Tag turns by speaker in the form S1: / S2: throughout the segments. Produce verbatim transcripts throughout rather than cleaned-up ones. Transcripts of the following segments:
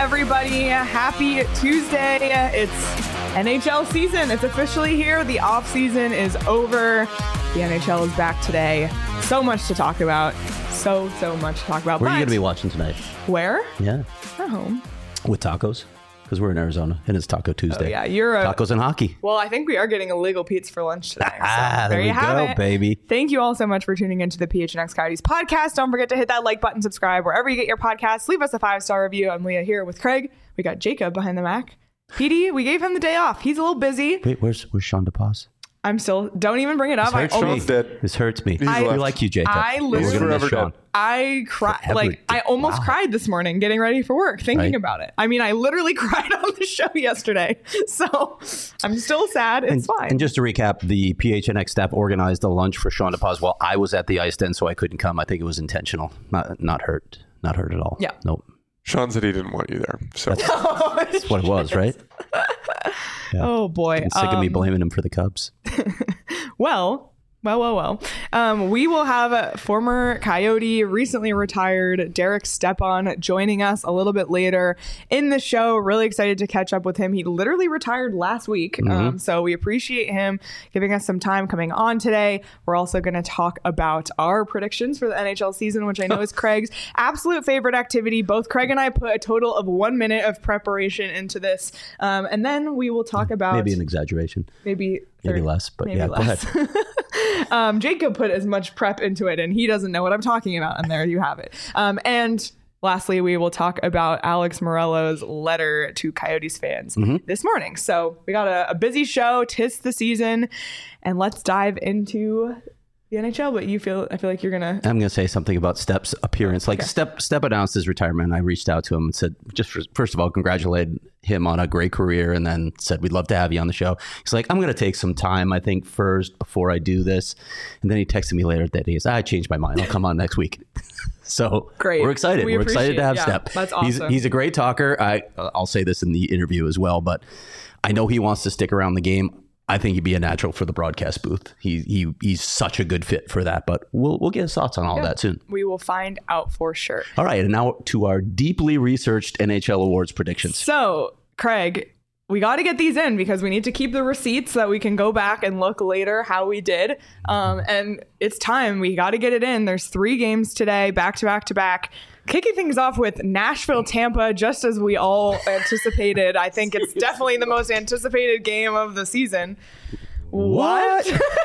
S1: everybody. Happy Tuesday. It's N H L season. It's officially here. The off season is over. The N H L is back today. So much to talk about. So, so much to talk about.
S2: Where
S1: but
S2: are you going to be watching tonight?
S1: Where?
S2: Yeah.
S1: At home.
S2: With tacos? Because we're in Arizona and it's Taco Tuesday.
S1: Oh, yeah. You're a,
S2: Tacos and hockey.
S1: Well, I think we are getting illegal Pete's for lunch today. So
S2: Ah, there,
S1: there
S2: we
S1: you have
S2: go,
S1: it.
S2: baby.
S1: Thank you all so much for tuning into the P H N X Coyotes podcast. Don't forget to hit that like button, subscribe wherever you get your podcasts. Leave us a five-star review. I'm Leah here with Craig. We got Jacob behind the Mac. P D, we gave him the day off. He's a little busy.
S2: Wait, where's where's Sean DePaz?
S1: I'm still, don't even bring it up. I
S2: Hurts
S1: almost,
S2: me.
S3: dead.
S2: This hurts me.
S1: I-
S2: we like you, Jacob.
S1: I
S2: But we're
S1: literally-
S2: gonna miss
S3: Forever
S2: Sean.
S3: dead.
S1: I cried,
S2: Forever
S1: like,
S2: dead.
S1: I almost
S2: Wow.
S1: cried this morning getting ready for work, thinking
S2: Right.
S1: about it. I mean, I literally cried on the show yesterday. So I'm still sad. It's
S2: And,
S1: fine.
S2: and just to recap, the P H N X staff organized a lunch for Sean DePaz while I was at the ice den, so I couldn't come. I think it was intentional, not not hurt, not hurt at all.
S1: Yeah.
S2: Nope.
S3: Sean said he didn't want you there. So
S2: That's what it was, right? Yeah.
S1: Oh, boy.
S2: I'm sick of me
S1: Um,
S2: blaming him for the Cubs.
S1: Well, well, well, well. Um, we will have a former Coyote, recently retired Derek Stepan joining us a little bit later in the show. Really excited to catch up with him. He literally retired last week.
S2: Mm-hmm.
S1: Um, so we appreciate him giving us some time coming on today. We're also going to talk about our predictions for the N H L season, which I know is Craig's absolute favorite activity. Both Craig and I put a total of one minute of preparation into this. Um, and then we will talk about
S2: Maybe an exaggeration.
S1: maybe
S2: Maybe
S1: thirty
S2: less, but
S1: maybe
S2: yeah,
S1: less.
S2: go ahead.
S1: um, Jacob put as much prep into it, and he doesn't know what I'm talking about. And there you have it. Um, and lastly, we will talk about Alex Morello's letter to Coyotes fans
S2: Mm-hmm.
S1: this morning. So we got a, a busy show. 'Tis the season, and let's dive into the N H L. But you feel, I feel like you're gonna.
S2: I'm going to say something about Step's appearance. Like Step Step announced his retirement. I reached out to him and said, just for, first of all, congratulated him on a great career, and then said, we'd love to have you on the show. He's like, I'm going to take some time, I think, first before I do this. And then he texted me later that day. He said, I changed my mind. I'll come on next week. So
S1: Great.
S2: we're excited.
S1: We
S2: We are excited to have
S1: appreciate- yeah,
S2: Step.
S1: that's
S2: He's,
S1: awesome.
S2: he's a great talker. I, I'll say this in the interview as well, but I know he wants to stick around the game. I think he'd be a natural for the broadcast booth. He he he's such a good fit for that. But we'll we'll get his thoughts on all
S1: Yeah.
S2: that soon.
S1: We will find out for sure.
S2: All right, and now to our deeply researched N H L awards predictions.
S1: So, Craig, we got to get these in because we need to keep the receipts so that we can go back and look later how we did. Um, and it's time. We got to get it in. There's three games today, back to back to back. Kicking things off with Nashville, Tampa, just as we all anticipated. I think it's definitely the most anticipated game of the season. What?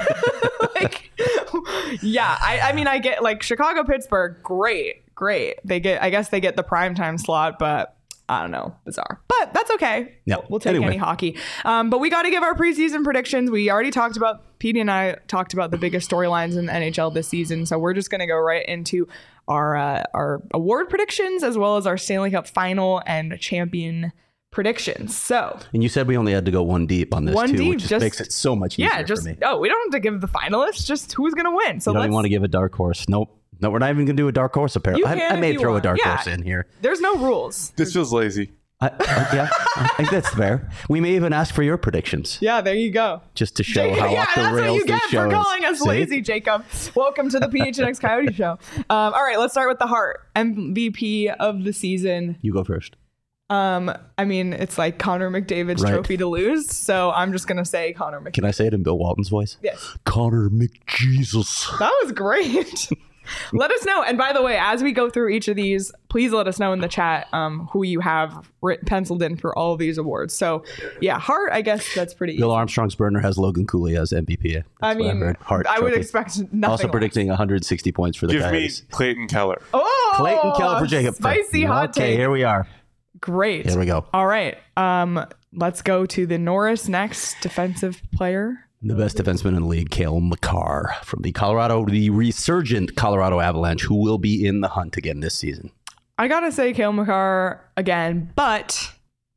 S1: like, yeah, I, I mean, I get like Chicago, Pittsburgh, great, great. They get, I guess they get the primetime slot, but I don't know, bizarre. But that's okay.
S2: Yeah.
S1: We'll, we'll take
S2: Anyway.
S1: any hockey. Um, but we got to give our preseason predictions. We already talked about, Petey and I talked about the biggest storylines in the N H L this season. So we're just going to go right into our uh, our award predictions as well as our Stanley Cup final and champion predictions. So
S2: And you said we only had to go one deep on this
S1: One
S2: too,
S1: deep,
S2: which just,
S1: just-
S2: makes it so much easier
S1: yeah, just
S2: for me.
S1: oh, we don't have to give the finalists, just who's going to win. So
S2: You don't
S1: let's
S2: even want to give a dark horse. Nope. No, we're not even going to do a dark horse. Apparently,
S1: You
S2: I,
S1: can
S2: I
S1: if
S2: may
S1: you
S2: throw
S1: want.
S2: a dark
S1: Yeah.
S2: horse in here.
S1: There's no rules.
S3: this feels lazy.
S2: I, I- yeah, I think that's fair. We may even ask for your predictions
S1: Yeah, there you go.
S2: just to show how
S1: yeah,
S2: off the
S1: that's what
S2: rails
S1: you
S2: this
S1: get
S2: show
S1: for
S2: is.
S1: calling us
S2: See?
S1: lazy, Jacob. Welcome to the P H N X Coyote Show. Um, all right, let's start with the Hart M V P of the season.
S2: You go first.
S1: Um, I mean, it's like Connor McDavid's
S2: Right.
S1: trophy to lose, so I'm just gonna say Connor McDavid.
S2: Can I say it in Bill Walton's voice?
S1: Yes,
S2: Connor McJesus.
S1: that was great. Let us know. And by the way, as we go through each of these, please let us know in the chat um, who you have writ- penciled in for all of these awards. So, yeah, Hart, I guess that's pretty easy.
S2: Bill Armstrong's burner has Logan Cooley as M V P. That's
S1: I
S2: what
S1: mean,
S2: heard. Hart
S1: I would
S2: trophy.
S1: expect nothing
S2: Also
S1: less.
S2: predicting one hundred sixty points for the
S3: Give me
S2: Coyotes.
S3: Clayton Keller.
S1: Oh,
S2: Clayton Keller for Jacob.
S1: Spicy hot
S2: Okay,
S1: take.
S2: here we are.
S1: Great.
S2: Here we go.
S1: All right. Um, let's go to the Norris next defensive player.
S2: The best defenseman in the league, Cale Makar from the Colorado, the resurgent Colorado Avalanche, who will be in the hunt again this season.
S1: I gotta say Cale Makar again, but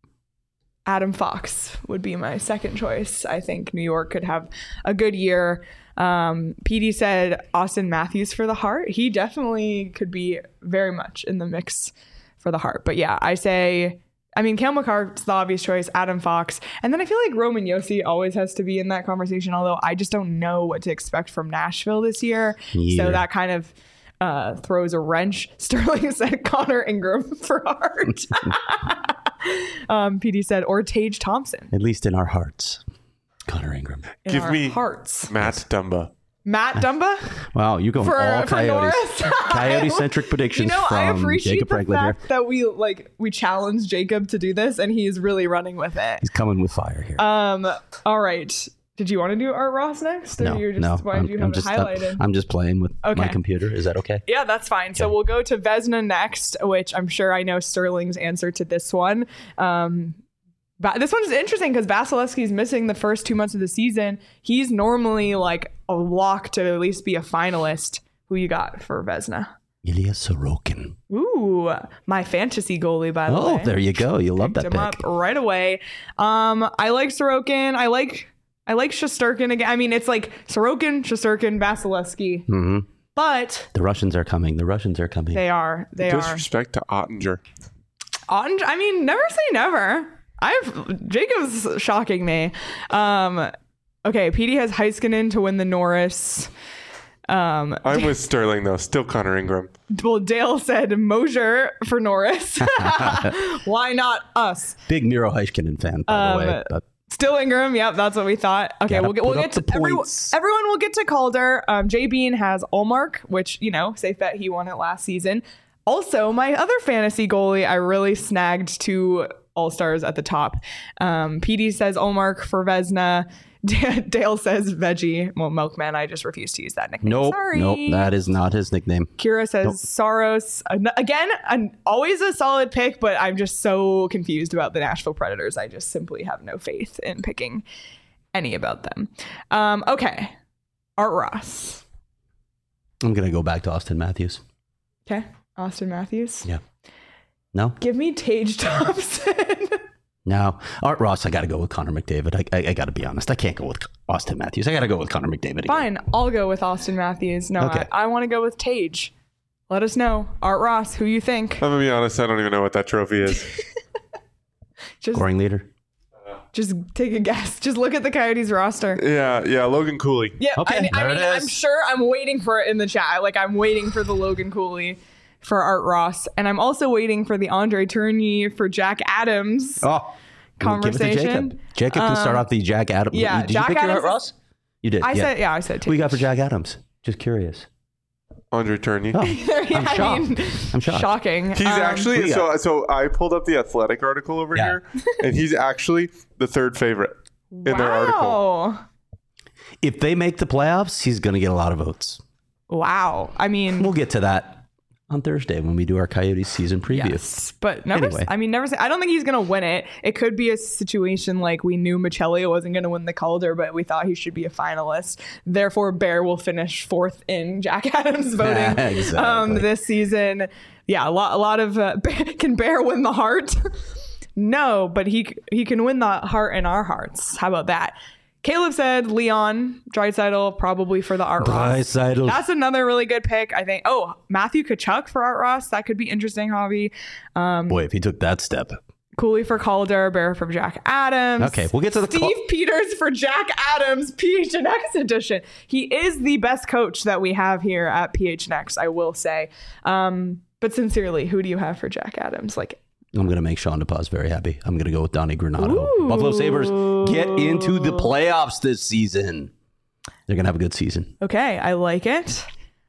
S1: Adam Fox would be my second choice. I think New York could have a good year. Um, P D said Austin Matthews for the Hart. He definitely could be very much in the mix for the Hart. But yeah, I say, I mean, Cale Makar's the obvious choice, Adam Fox. And then I feel like Roman Josi always has to be in that conversation, although I just don't know what to expect from Nashville this year.
S2: Yeah.
S1: So that kind of uh, throws a wrench. Sterling said Connor Ingram for Hart. um, P D said, or Tage Thompson.
S2: At least in our hearts. Connor Ingram.
S1: In
S3: Give
S1: our
S3: me
S1: hearts.
S3: Matt Dumba.
S1: Matt Dumba?
S2: Wow, you're going
S1: For-
S2: all
S1: for
S2: Coyotes.
S1: Norris.
S2: Coyote-centric predictions
S1: You know, I
S2: from
S1: appreciate
S2: Jacob
S1: the
S2: Franklin here.
S1: fact that we like we challenged Jacob to do this, and he's really running with it.
S2: He's coming with fire here.
S1: Um. All right. Did you want to do Art Ross next? Or
S2: no,
S1: you're just,
S2: no.
S1: Why
S2: I'm,
S1: did you
S2: I'm
S1: have it
S2: just,
S1: highlighted?
S2: I'm, I'm just playing with my
S1: Okay.
S2: computer. Is that okay?
S1: Yeah, that's fine. So we'll go to Vezina next, which I'm sure I know Sterling's answer to this one. Um, but this one's interesting because Vasilevsky's missing the first two months of the season. He's normally like a lock to at least be a finalist. Who you got for Vezina?
S2: Ilya Sorokin.
S1: Ooh, my fantasy goalie, by the way.
S2: Oh, there you go. You love that
S1: Picked him
S2: pick.
S1: up right away. Um, I like Sorokin. I like I like Shesterkin again. I mean, it's like Sorokin, Shesterkin, Vasilevsky,
S2: hmm
S1: but
S2: The Russians are coming. The Russians are coming.
S1: they are they are.
S3: Disrespect to Ottinger.
S1: Ottinger, I mean, never say never. I've Jacob's shocking me. Um, okay, P D has Heiskanen to win the Norris. Um,
S3: I'm with Sterling though. Still Connor Ingram.
S1: well, Dale said Mosier for Norris. Why not us?
S2: Big Miro Heiskanen fan, by
S1: Um,
S2: the way. But
S1: Still Ingram. Yep, that's what we thought. Okay,
S2: Gotta
S1: we'll get we'll
S2: put
S1: get
S2: up
S1: to
S2: the
S1: everyone.
S2: points.
S1: Everyone will get to Calder. Um, Jay Bean has Allmark, which you know, safe bet he won it last season. Also, my other fantasy goalie, I really snagged two All Stars at the top. Um, P D says Allmark for Vezina. Dale says Veggie. Well, Milkman. I just refuse to use that nickname.
S2: nope,
S1: Sorry.
S2: nope, that is not his nickname.
S1: Kira says
S2: Nope.
S1: Saros. An- Again, an, always a solid pick, but I'm just so confused about the Nashville Predators. I just simply have no faith in picking any about them. Um, okay. Art Ross.
S2: I'm going to go back to Austin Matthews.
S1: Okay. Austin Matthews.
S2: Yeah. No?
S1: Give me Tage Thompson.
S2: No. Art Ross, I got to go with Connor McDavid. I, I, I got to be honest. I can't go with Austin Matthews. I got to go with Connor McDavid again.
S1: Fine. I'll go with Austin Matthews. No,
S2: Okay.
S1: I, I want to go with Tage. Let us know. Art Ross, who you think?
S3: I'm gonna be honest. I don't even know what that trophy is.
S1: Just,
S2: Scoring leader.
S1: just take a guess. Just look at the Coyotes roster.
S3: yeah, yeah. Logan Cooley.
S1: Yeah,
S2: Okay,
S1: I, mean- I
S2: there
S1: mean,
S2: it
S1: I'm
S2: is.
S1: sure I'm waiting for it in the chat. Like, I'm waiting for the Logan Cooley for Art Ross. And I'm also waiting for the Andre Tourigny for Jack Adams.
S2: Oh.
S1: Conversation.
S2: Give it to Jacob. Jacob can start
S1: Um,
S2: off the Jack Adams.
S1: yeah,
S2: Did
S1: Jack
S2: you pick your
S1: Adams
S2: Art
S1: is-
S2: Ross? You did.
S1: I
S2: yeah.
S1: said, yeah, I said
S2: Who you got for
S1: Tage.
S2: Jack Adams? Just curious.
S3: Andre Tourigny.
S2: Oh,
S1: Yeah,
S2: I'm
S1: I
S2: shocked.
S1: mean,
S2: I'm shocked.
S1: Shocking.
S3: He's
S1: Um,
S2: who
S3: actually
S2: you
S3: so so I pulled up the Athletic article over
S2: Yeah.
S3: here, and he's actually the third favorite in their article.
S1: Wow.
S2: If they make the playoffs, he's going to get a lot of votes.
S1: Wow. I mean,
S2: We'll get to that on Thursday when we do our Coyotes season preview.
S1: yes, but never.
S2: Anyway.
S1: I mean, never say. I don't think he's gonna win it. It could be a situation like we knew Michelio wasn't gonna win the Calder, but we thought he should be a finalist. Therefore, Bear will finish fourth in Jack Adams voting
S2: Exactly.
S1: um, this season. Yeah, a lot. A lot of uh, can Bear win the heart? No, but he he can win the heart in our hearts. How about that? Caleb said Leon Draisaitl probably for the Art Ross.
S2: Draisaitl.
S1: That's another really good pick, I think. Oh, Matthew Kachuk for Art Ross. That could be interesting, Javi. Um,
S2: Boy, if he took that step.
S1: Cooley for Calder, Bear for Jack Adams.
S2: Okay, we'll get to the
S1: Steve
S2: Cal-
S1: Peters for Jack Adams, P H N X edition. He is the best coach that we have here at P H N X, I will say. Um, but sincerely, who do you have for Jack Adams? Like,
S2: I'm going to make Sean DePaz very happy. I'm going to go with Donnie Granato.
S1: Ooh.
S2: Buffalo Sabres get into the playoffs this season. They're going to have a good season.
S1: okay, I like it.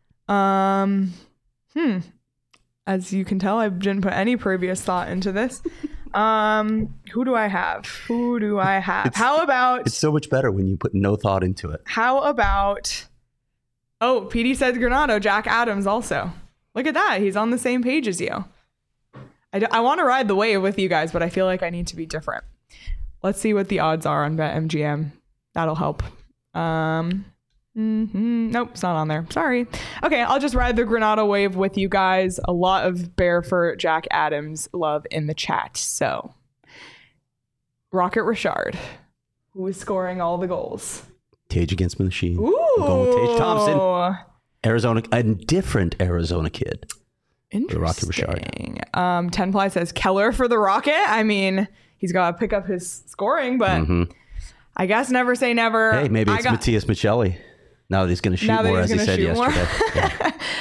S1: Um, hmm. As you can tell, I didn't put any previous thought into this. Um, who do I have? Who do I have?
S2: It's-
S1: How about
S2: It's so much better when you put no thought into it.
S1: how about oh, P D says Granato, Jack Adams also. Look at that. He's on the same page as you. I, d- I want to ride the wave with you guys, but I feel like I need to be different. Let's see what the odds are on BetMGM. That'll help. Um, mhm. Nope, it's not on there. Sorry. Okay, I'll just ride the Granato wave with you guys. A lot of Bear for Jack Adams love in the chat. So, Rocket Richard, who is scoring all the goals.
S2: Tage against the machine.
S1: Ooh.
S2: I'm going with Tage Thompson. Arizona, a different Arizona kid.
S1: Interesting.
S2: Rocket Richard.
S1: Um, Ten Ply says Keller for the Rocket. I mean, he's got to pick up his scoring, but
S2: Mhm.
S1: I guess never say never.
S2: Hey, maybe
S1: I
S2: it's
S1: got-
S2: Matthias Michelli. Now that he's going to shoot
S1: Now that
S2: more,
S1: he's
S2: as he
S1: gonna
S2: said
S1: shoot more.
S2: yesterday. Yeah.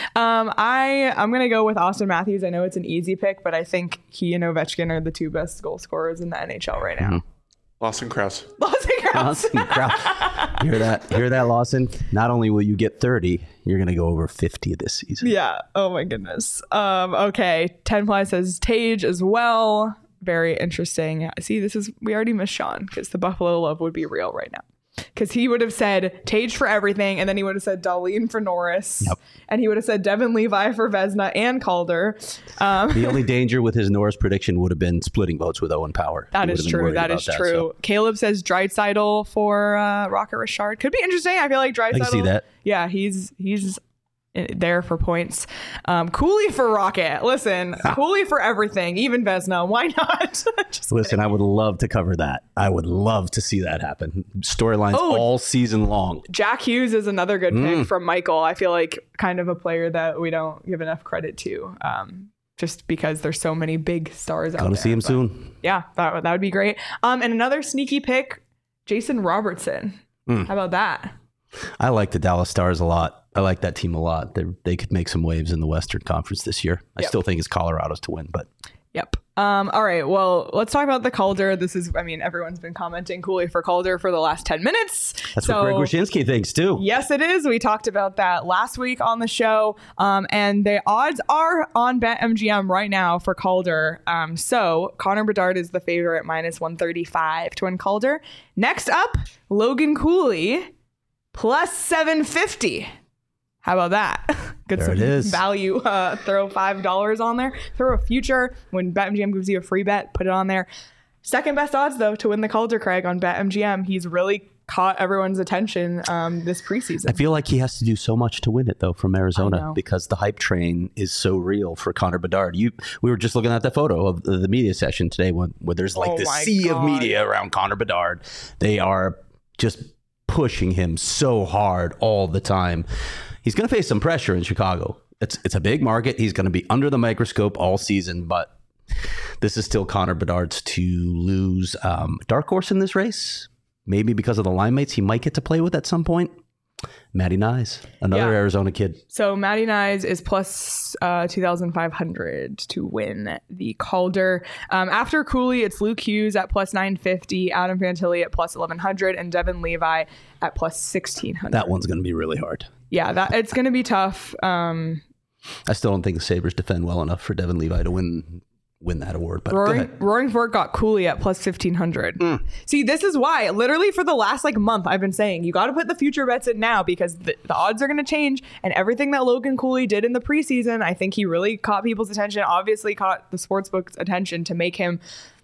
S1: Um, I I'm gonna go with Austin Matthews. I know it's an easy pick, but I think he and Ovechkin are the two best goal scorers in the N H L right now.
S2: Mm-hmm.
S3: Lawson Krause.
S1: Lawson Krause.
S2: Lawson Krause. Hear that? Hear that, Lawson? Not only will you get thirty, you're gonna go over fifty this season.
S1: Yeah. Oh my goodness. Um. Okay. Ten Ply says Tage as well. Very interesting. See, this is we already missed Sean because the Buffalo love would be real right now. Because he would have said Tage for everything, and then he would have said Dahlin for Norris,
S2: Yep.
S1: and he would have said Devin Levi for Vezina and Calder. Um,
S2: The only danger with his Norris prediction would have been splitting votes with Owen Power.
S1: that
S2: He would
S1: is
S2: have been
S1: true.
S2: worried
S1: That
S2: about
S1: is true.
S2: so.
S1: Caleb says Draisaitl for uh, Rocket Richard. Could be interesting. I feel like Draisaitl.
S2: I can see that.
S1: Yeah, he's he's there for points. Um, Cooley for Rocket. Listen, Cooley for everything, even Vezina. Why not? Just
S2: Listen, I would love to cover that. I would love to see that happen. Storylines
S1: Oh.
S2: all season long.
S1: Jack Hughes is another good
S2: Mm.
S1: pick from Michael. I feel like kind of a player that we don't give enough credit to, um, just because there's so many big stars out there.
S2: Going to see him
S1: But
S2: soon.
S1: Yeah, that, would- that would be great. Um, and another sneaky pick, Jason Robertson.
S2: Mm.
S1: How about that?
S2: I like the Dallas Stars a lot. I like that team a lot. They they could make some waves in the Western Conference this year. I
S1: Yep.
S2: still think it's Colorado's to win, but
S1: Yep. Um, all right. Well, let's talk about the Calder. This is, I mean, everyone's been commenting Cooley for Calder for the last ten minutes.
S2: that's
S1: So-
S2: what Greg Wyshynski thinks too.
S1: Yes, it is. We talked about that last week on the show. Um, and the odds are on BetMGM right now for Calder. Um, so Connor Bedard is the favorite, minus one thirty-five to win Calder. Next up, Logan Cooley, plus seven fifty. How about that? Good
S2: There
S1: some
S2: it is.
S1: value. Uh, throw five dollars on there. Throw a future. When BetMGM gives you a free bet, put it on there. Second best odds, though, to win the Calder, Craig, on BetMGM. He's really caught everyone's attention um, this preseason.
S2: I feel like he has to do so much to win it though from
S1: I
S2: Arizona
S1: know.
S2: because the hype train is so real for Connor Bedard. You, we were just looking at that photo of the, the media session today when, where there's like
S1: Oh
S2: this
S1: my
S2: sea
S1: God.
S2: of media around Connor Bedard. They are just pushing him so hard all the time. He's going to face some pressure in Chicago. It's it's a big market. He's going to be under the microscope all season, but this is still Connor Bedard's to lose. Um, dark horse in this race, maybe because of the line mates he might get to play with at some point. Matty Nyes, another
S1: Yeah.
S2: Arizona kid.
S1: So Matty Nyes is plus uh, two thousand five hundred to win the Calder. Um, after Cooley, it's Luke Hughes at plus nine fifty, Adam Fantilli at plus eleven hundred, and Devin Levi at plus sixteen hundred.
S2: That one's going to be really hard.
S1: Yeah, that it's going to be tough. Um,
S2: I still don't think the Sabres defend well enough for Devin Levi to win win that award. But go
S1: Roaring,
S2: ahead.
S1: Roaring Fork got Cooley at plus fifteen hundred.
S2: Mm.
S1: See, this is why, literally for the last like month, I've been saying you got to put the future bets in now because the, the odds are going to change. And everything that Logan Cooley did in the preseason, I think he really caught people's attention, obviously caught the sportsbook's attention to make him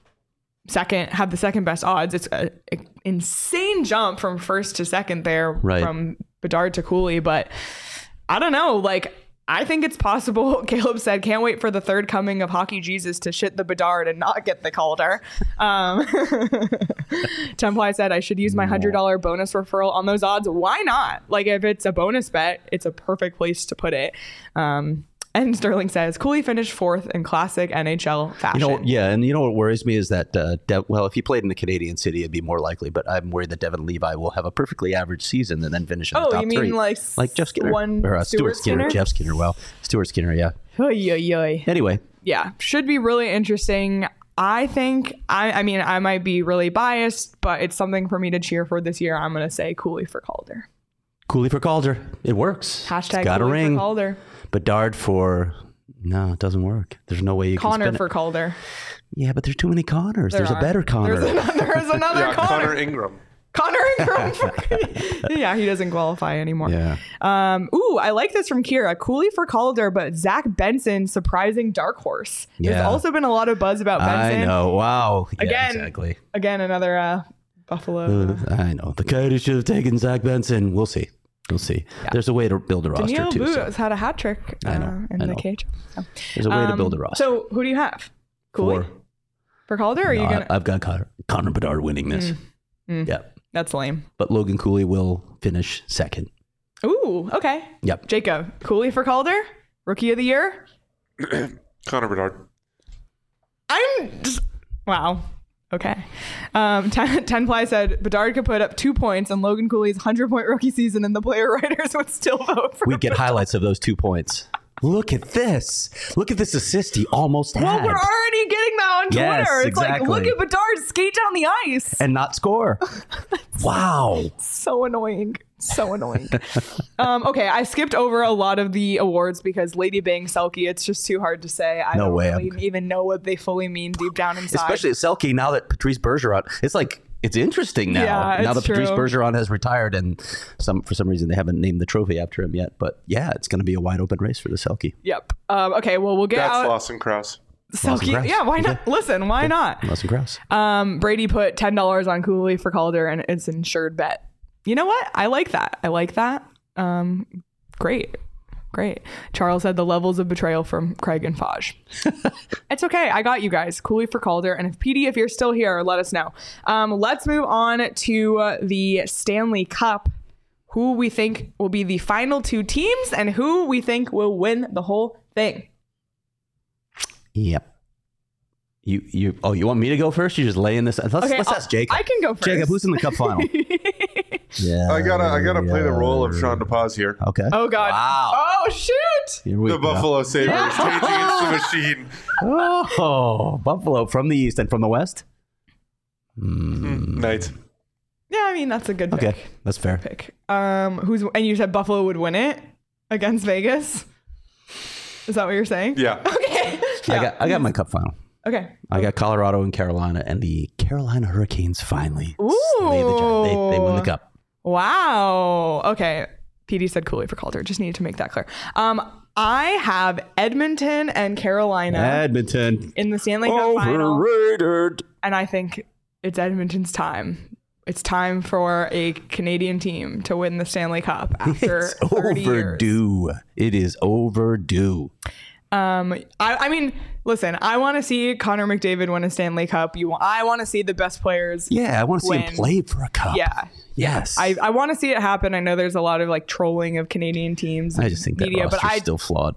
S1: second, have the second best odds. It's an insane jump from first to second there,
S2: Right.
S1: from Bedard to Cooley. But I don't know, like, I think it's possible. Caleb said, can't wait for the third coming of Hockey Jesus to shit the Bedard and not get the Calder. Um, Temply said, I should use my one hundred dollars bonus referral on those odds. Why not? Like, if it's a bonus bet, it's a perfect place to put it. Um, and Sterling says, Cooley finished fourth in classic N H L fashion.
S2: You know, yeah, and you know what worries me is that, uh, De- well, if he played in the Canadian city, it'd be more likely. But I'm worried that Devin Levi will have a perfectly average season and then finish in the
S1: Oh,
S2: top
S1: you mean
S2: three.
S1: like
S2: like Jeff Skinner
S1: one
S2: or uh,
S1: Stuart
S2: Stuart Skinner,
S1: Skinner?
S2: Jeff Skinner. Well, Stuart Skinner, yeah.
S1: Oy, oy, oy.
S2: Anyway,
S1: Yeah, should be really interesting. I think, I, I mean, I might be really biased, but it's something for me to cheer for this year. I'm going to say Cooley for Calder.
S2: Cooley for Calder, it works.
S1: Hashtag
S2: it's got a
S1: Cooley
S2: ring.
S1: for Calder.
S2: Bedard for no, it doesn't work. There's no way you
S1: Connor
S2: can spin
S1: for
S2: it.
S1: Calder.
S2: Yeah, but there's too many Connors.
S1: There
S2: there's
S1: are.
S2: a better Connor.
S1: There's another, there's another
S3: Yeah,
S1: Connor.
S3: Connor Ingram.
S1: Connor Ingram. For, yeah, he doesn't qualify anymore.
S2: yeah.
S1: Um, ooh, I like this from Kira. Cooley for Calder, but Zach Benson, surprising dark horse. There's
S2: Yeah.
S1: also been a lot of buzz about Benson.
S2: I know. Wow. Yeah,
S1: Again,
S2: exactly.
S1: Again, another uh, Buffalo.
S2: Uh, I know. The Coyotes should have taken Zach Benson. We'll see. We'll see. There's a way to build a roster
S1: Danilo
S2: too. so
S1: Booz had a hat trick uh,
S2: I know,
S1: in
S2: I
S1: the
S2: know.
S1: cage. So.
S2: There's a way to
S1: Um,
S2: build a roster.
S1: So who do you have? Cooley
S2: Four.
S1: for Calder? Or are
S2: No,
S1: you
S2: I-
S1: gonna?
S2: I've got Connor, Connor Bedard winning this.
S1: Mm.
S2: Yeah.
S1: That's lame.
S2: But Logan Cooley will finish second.
S1: Ooh, okay.
S2: Yep.
S1: Jacob, Cooley for Calder, Rookie of the Year.
S3: Connor Bedard.
S1: I'm just wow. Okay. Um, ten, ten Ply said Bedard could put up two points and Logan Cooley's one hundred point rookie season and the player writers would still vote for
S2: We get
S1: Bedard.
S2: highlights of those two points. Look at this. Look at this assist he almost
S1: Well,
S2: had.
S1: we're already getting that on
S2: Yes,
S1: Twitter. It's
S2: exactly.
S1: like, look at Bedard skate down the ice.
S2: and not score. Wow.
S1: So annoying. So annoying. um, okay, I skipped over a lot of the awards because Lady Bang, Selke, it's just too hard to say. I
S2: No
S1: don't
S2: way.
S1: really
S2: I'm-
S1: even know what they fully mean deep down inside.
S2: Especially at Selke, now that Patrice Bergeron, it's like, it's interesting now.
S1: Yeah,
S2: now
S1: it's
S2: that Patrice
S1: true.
S2: Bergeron has retired and some for some reason they haven't named the trophy after him yet. But yeah, it's going to be a wide open race for the Selke.
S1: Yep. Um, okay, well, we'll get
S3: That's
S1: out.
S3: Lawson Krause.
S2: Lawson
S1: Selke.
S2: Krause.
S1: Yeah, why not?
S2: Okay.
S1: Listen, why not?
S2: Lawson Krause.
S1: Um, Brady put ten dollars on Cooley for Calder and it's an insured bet. You know what? I like that. I like that. Um, great. Great. Charles said the levels of betrayal from Craig and Faj. It's okay. I got you guys. Cooley for Calder. And if P D, if you're still here, let us know. Um, let's move on to uh, the Stanley Cup. Who we think will be the final two teams and who we think will win the whole thing.
S2: Yep. You you oh you want me to go first? You just lay in this. Let's,
S1: Okay,
S2: let's
S1: I'll-
S2: ask Jacob.
S1: I can go first.
S2: Jacob, who's in the cup final? yeah.
S3: I gotta, I gotta play the role of
S2: yeah.
S3: Sean DePaz here.
S2: Okay.
S1: Oh, God.
S2: Wow.
S1: Oh, shoot.
S2: Here we
S3: The
S2: go.
S3: Buffalo Sabres
S1: Yeah.
S3: changing into the machine.
S2: Oh, Buffalo from the east and from the west.
S3: Mm, Knights.
S1: Yeah, I mean, that's a good pick.
S2: Okay, that's fair.
S1: pick. Um, who's and you said Buffalo would win it against Vegas? Is that what you're saying?
S3: Yeah.
S1: Okay.
S2: I got I got my cup final.
S1: Okay.
S2: I got Colorado and Carolina, and the Carolina Hurricanes finally
S1: Ooh.
S2: slay the gi- they, they win the cup.
S1: Wow. Okay. P D said Cooley for Calder. Just needed to make that clear. Um, I have Edmonton and Carolina
S2: Edmonton
S1: in the Stanley Cup final,
S2: overrated.
S1: and I think it's Edmonton's time. It's time for a Canadian team to win the Stanley Cup after
S2: It's
S1: thirty years.
S2: overdue. It is overdue.
S1: Um, I, I mean, listen, I want to see Connor McDavid win a Stanley Cup. You, want, I want to see the best players.
S2: Yeah, I want to see him
S1: Win.
S2: play for a cup.
S1: Yeah.
S2: Yes.
S1: I, I want to see it happen. I know there's a lot of like trolling of Canadian teams.
S2: I just think that
S1: media,
S2: roster's
S1: but I,
S2: still flawed.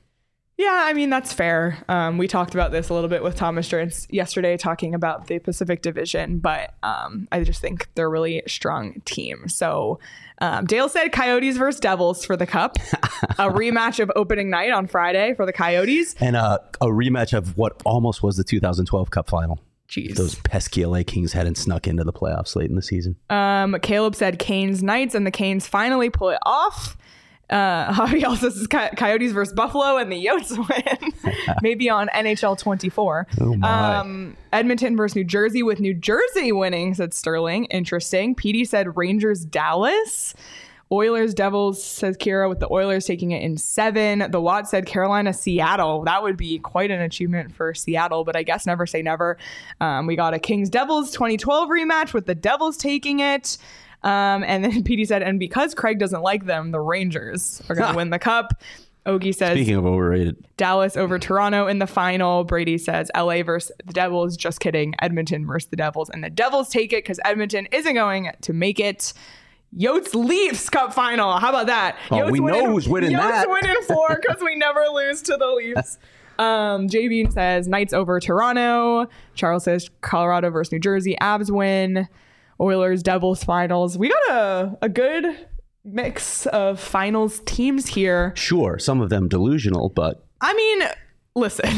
S1: yeah, I mean, that's fair. Um, we talked about this a little bit with Thomas Stearns yesterday, talking about the Pacific Division, but um, I just think they're a really strong team. So um, Dale said Coyotes versus Devils for the Cup, a rematch of opening night on Friday for the Coyotes.
S2: And uh, a rematch of what almost was the two thousand twelve Cup final.
S1: Jeez.
S2: Those pesky L A Kings hadn't snuck into the playoffs late in the season.
S1: Um, Caleb said Canes Knights, and the Canes finally pull it off. Uh, Javi also says Coy- Coyotes versus Buffalo, and the Yotes win. Maybe on N H L twenty-four.
S2: Oh my.
S1: Um, Edmonton versus New Jersey, with New Jersey winning, said Sterling. Interesting. P D said Rangers Dallas. Oilers Devils, says Kira, with the Oilers taking it in seven. The Watt said Carolina Seattle. That would be quite an achievement for Seattle, but I guess never say never. Um, we got a Kings Devils twenty twelve rematch with the Devils taking it. Um, and then P D said, and because Craig doesn't like them, the Rangers are going to win the cup. Ogie says
S2: Speaking of overrated,
S1: Dallas over Toronto in the final. Brady says L A versus the Devils. Just kidding. Edmonton versus the Devils. And the Devils take it because Edmonton isn't going to make it. Yotes Leafs Cup final. How about that?
S2: Oh,
S1: Yotes
S2: we know
S1: winning-
S2: who's winning
S1: Yotes
S2: that.
S1: winning four because we never lose to the Leafs. Um, J Bean says Knights over Toronto. Charles says Colorado versus New Jersey. Avs win. Oilers Devils finals. We got a, a good mix of finals teams here.
S2: sure, some of them delusional, but
S1: I mean, listen,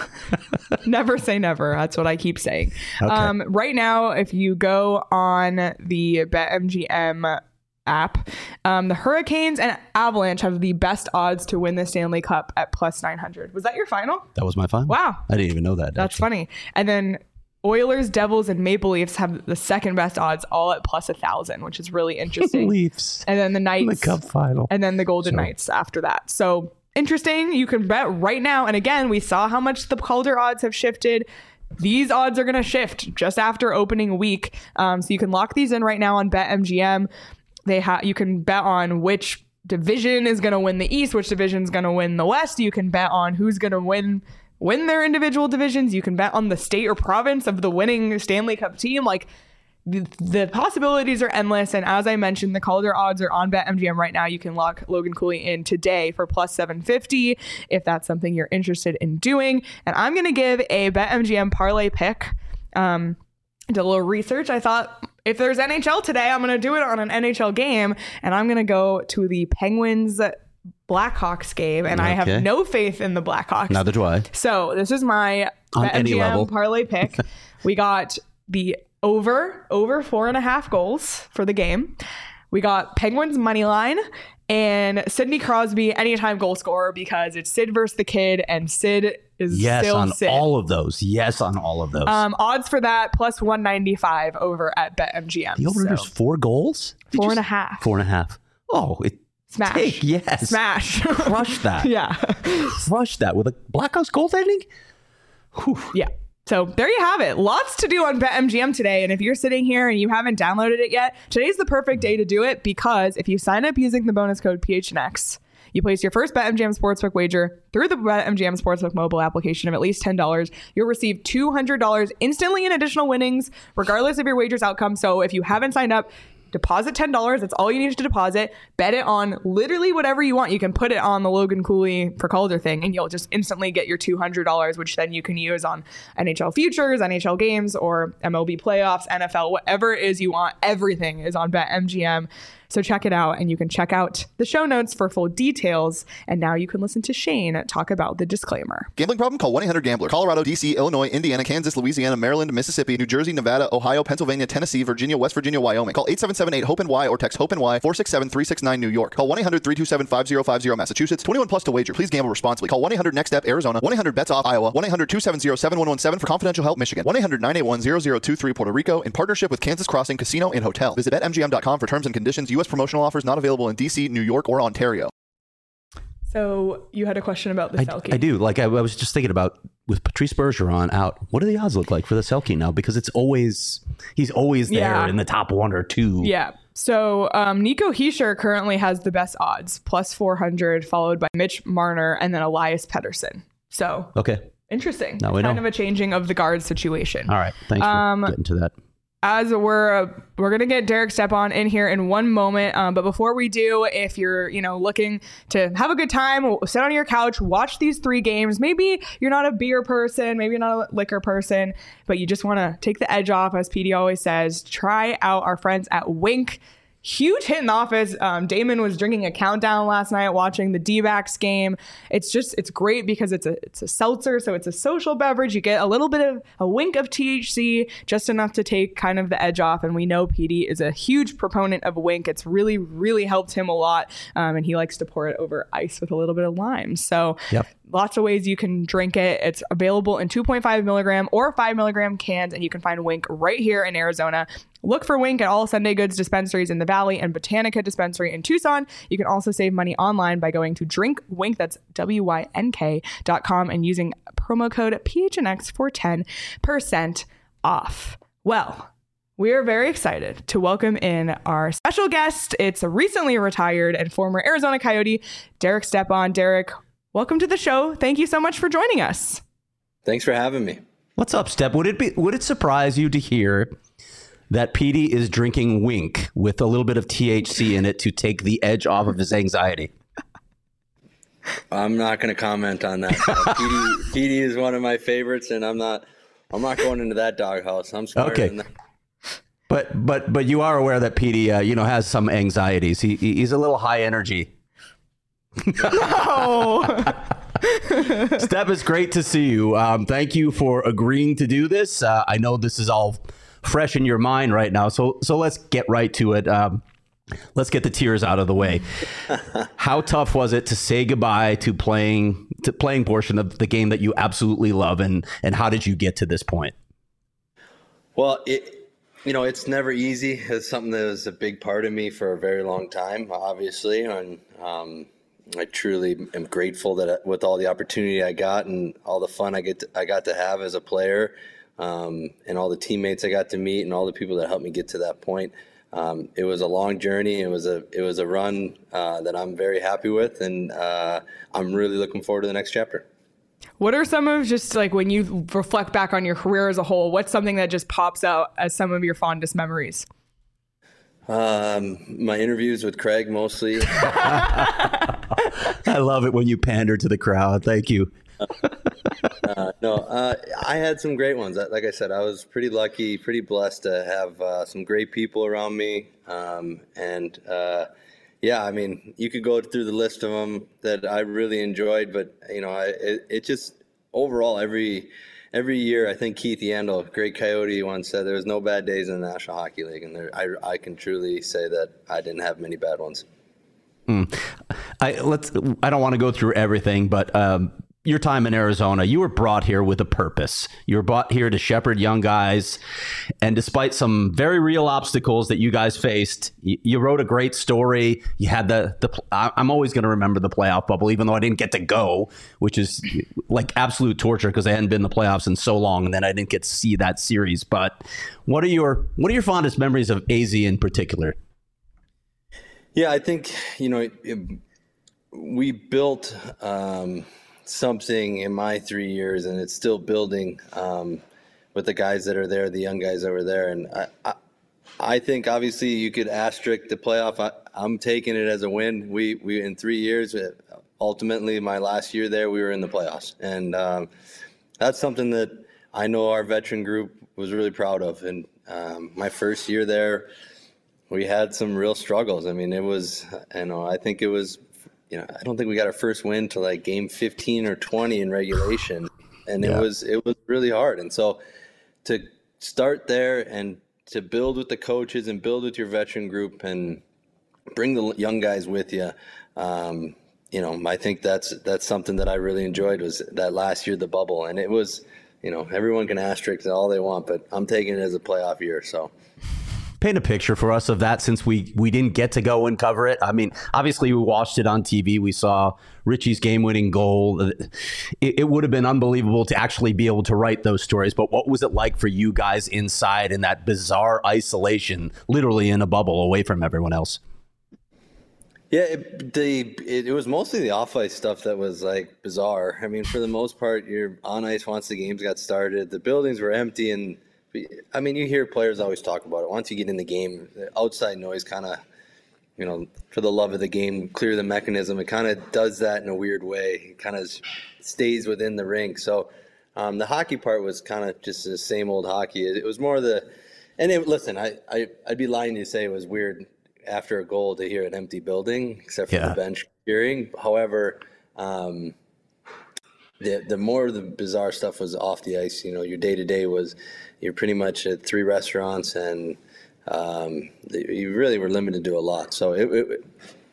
S1: never say never. That's what I keep saying.
S2: Okay.
S1: Um, right now, if you go on the BetMGM app, um, the Hurricanes and Avalanche have the best odds to win the Stanley Cup at plus nine hundred. Was that your final?
S2: that was my final.
S1: Wow.
S2: I didn't even know that.
S1: That's
S2: actually.
S1: funny. And then Oilers, Devils, and Maple Leafs have the second best odds, all at plus a thousand, which is really interesting.
S2: Leafs
S1: And then the
S2: in
S1: Knights
S2: the cup final.
S1: and then the Golden
S2: So-
S1: Knights after that. So interesting. You can bet right now. And again, we saw how much the Calder odds have shifted. These odds are going to shift just after opening week. Um, so you can lock these in right now on BetMGM. They have you can bet on which division is going to win the East, which division is going to win the West. You can bet on who's going to win win their individual divisions. You can bet on the state or province of the winning Stanley Cup team. Like the, the possibilities are endless. And as I mentioned, the Calder odds are on BetMGM right now. You can lock Logan Cooley in today for plus seven fifty if that's something you're interested in doing. And I'm going to give a BetMGM parlay pick. Um, did a little research. I thought if there's N H L today, I'm going to do it on an N H L game. And I'm going to go to the Penguins Blackhawks game. And okay. I have no faith in the Blackhawks.
S2: Neither do I.
S1: So this is my
S2: on any level
S1: parlay pick. We got the over, over four and a half goals for the game. We got Penguins money line and Sidney Crosby anytime goal scorer because it's Sid versus the kid and Sid is
S2: yes
S1: still
S2: on
S1: Sid.
S2: all of those. Yes on all of those.
S1: Um, odds for that plus one ninety-five over at BetMGM.
S2: The over so. four goals?
S1: Did four and a half.
S2: Four and a half. Oh, it
S1: smash.
S2: Take, yes.
S1: Smash.
S2: Crush that.
S1: Yeah.
S2: Crush that with a Blackhawks goaltending. Whew.
S1: Yeah. So there you have it. Lots to do on BetMGM today. And if you're sitting here and you haven't downloaded it yet, today's the perfect day to do it because if you sign up using the bonus code P H N X, you place your first BetMGM Sportsbook wager through the BetMGM Sportsbook mobile application of at least ten dollars. You'll receive two hundred dollars instantly in additional winnings, regardless of your wager's outcome. So if you haven't signed up, deposit ten dollars. That's all you need to deposit. Bet it on literally whatever you want. You can put it on the Logan Cooley for Calder thing, and you'll just instantly get your two hundred dollars, which then you can use on N H L futures, N H L games, or M L B playoffs, N F L, whatever it is you want. Everything is on BetMGM. So check it out, and you can check out the show notes for full details. And now you can listen to Shane talk about the disclaimer.
S4: Gambling problem? Call one eight hundred gambler. Colorado, D C, Illinois, Indiana, Kansas, Louisiana, Maryland, Mississippi, New Jersey, Nevada, Ohio, Pennsylvania, Tennessee, Virginia, West Virginia, Wyoming. Call eight seven seven eight hope Y or text HOPE-NY four six seven three six nine New York. Call one eight hundred three two seven five zero five zero Massachusetts. twenty-one plus to wager. Please gamble responsibly. Call one eight hundred next step Arizona. one eight hundred bets off Iowa. one eight hundred two seven zero seven one one seven for confidential help Michigan. one eight hundred nine eight one zero zero two three Puerto Rico in partnership with Kansas Crossing Casino and Hotel. Visit bet M G M dot com for terms and conditions. U S promotional offers not available in D C, New York, or Ontario.
S1: So you had a question about the
S2: I,
S1: Selke.
S2: I do. Like I, I was just thinking about with Patrice Bergeron out, what do the odds look like for the Selke now? Because it's always, he's always there
S1: yeah.
S2: in the top one or two.
S1: Yeah. So um, Nico Hischier currently has the best odds, plus four hundred, followed by Mitch Marner and then Elias Pettersson. So
S2: okay,
S1: interesting.
S2: Now we
S1: kind
S2: know.
S1: of a changing of the guard situation.
S2: All right. Thanks
S1: um,
S2: for getting to that.
S1: As we're uh, we're gonna get Derek Stepan in here in one moment, um, but before we do, if you're you know looking to have a good time, sit on your couch, watch these three games. Maybe you're not a beer person, maybe you're not a liquor person, but you just want to take the edge off, as P D always says. Try out our friends at Wink. Huge hit in the office. Um, Damon was drinking a countdown last night watching the D-backs game. It's just, it's great because it's a it's a seltzer, so it's a social beverage. You get a little bit of a wink of T H C, just enough to take kind of the edge off. And we know P D is a huge proponent of Wink. It's really, really helped him a lot. Um, and he likes to pour it over ice with a little bit of lime. So
S2: yep.
S1: Lots of ways you can drink it. It's available in two point five milligram or five milligram cans, and you can find Wink right here in Arizona. Look for Wink at all Sunday Goods dispensaries in the Valley and Botanica dispensary in Tucson. You can also save money online by going to drink wink, that's W Y N K dot com, and using promo code P H N X for ten percent off. Well, we are very excited to welcome in our special guest. It's a recently retired and former Arizona Coyote, Derek Stepan. Derek, welcome to the show. Thank you so much for joining us.
S5: Thanks for having me.
S2: What's up, Step? Would it be would it surprise you to hear that P D is drinking Wink with a little bit of T H C in it to take the edge off of his anxiety?
S5: I'm not going to comment on that. Uh, P D, P D is one of my favorites, and I'm not. I'm not going into that doghouse. I'm smarter
S2: okay.
S5: than that.
S2: But but but you are aware that P D, uh, you know, has some anxieties. He he's a little high energy.
S1: No.
S2: Steph, it's great to see you. Um, thank you for agreeing to do this. Uh, I know this is all fresh in your mind right now, so so let's get right to it. Um, let's get the tears out of the way. How tough was it to say goodbye to playing to playing portion of the game that you absolutely love, and and how did you get to this point?
S5: Well, it you know it's never easy. It's something that was a big part of me for a very long time, obviously, and um, I truly am grateful that with all the opportunity I got and all the fun I get to, I got to have as a player, um, and all the teammates I got to meet and all the people that helped me get to that point. Um, it was a long journey. It was a it was a run uh, that I'm very happy with, and uh, I'm really looking forward to the next chapter.
S1: What are some of just like when you reflect back on your career as a whole, what's something that just pops out as some of your fondest memories?
S5: Um, my interviews with Craig mostly.
S2: I love it when you pander to the crowd. Thank you.
S5: uh, no, uh, I had some great ones. Like I said, I was pretty lucky, pretty blessed to have uh, some great people around me. Um, and uh, yeah, I mean, you could go through the list of them that I really enjoyed, but you know, I, it, it just overall every every year, I think Keith Yandel, great Coyote, once said there was no bad days in the National Hockey League, and there, I I can truly say that I didn't have many bad ones.
S2: Mm. I let's. I don't want to go through everything, but um, your time in Arizona, you were brought here with a purpose. You were brought here to shepherd young guys, and despite some very real obstacles that you guys faced, you, you wrote a great story. You had the the. I'm always going to remember the playoff bubble, even though I didn't get to go, which is like absolute torture because I hadn't been in the playoffs in so long, and then I didn't get to see that series. But what are your what are your fondest memories of A Z in particular?
S5: Yeah, I think, you know, it, it, we built um, something in my three years, and it's still building um, with the guys that are there, the young guys that were there. And I, I, I think, obviously, you could asterisk the playoff. I, I'm taking it as a win. We, we in three years, ultimately, my last year there, we were in the playoffs. And um, that's something that I know our veteran group was really proud of. And um, my first year there, we had some real struggles. I mean, it was, you know, I think it was, you know, I don't think we got our first win to like game fifteen or twenty in regulation. And yeah. it was, it was really hard. And so to start there and to build with the coaches and build with your veteran group and bring the young guys with you, um, you know, I think that's, that's something that I really enjoyed was that last year, the bubble. And it was, you know, everyone can asterisk all they want, but I'm taking it as a playoff year. So.
S2: Paint a picture for us of that, since we we didn't get to go and cover it. I mean, obviously we watched it on T V. We saw Richie's game-winning goal. It, it would have been unbelievable to actually be able to write those stories. But what was it like for you guys inside in that bizarre isolation, literally in a bubble away from everyone else?
S5: Yeah, it, the it, it was mostly the off-ice stuff that was like bizarre. I mean, for the most part, you're on ice once the games got started. The buildings were empty, and I mean, you hear players always talk about it. Once you get in the game, the outside noise kind of, you know, for the love of the game, clear the mechanism. It kind of does that in a weird way. It kind of stays within the rink. So um, the hockey part was kind of just the same old hockey. It, it was more the – and it, listen, I, I, I'd be lying to say it was weird after a goal to hear an empty building, except for yeah. the bench cheering. However, um, the the more the bizarre stuff was off the ice. You know, your day-to-day was – you're pretty much at three restaurants, and um, you really were limited to a lot. So it, it,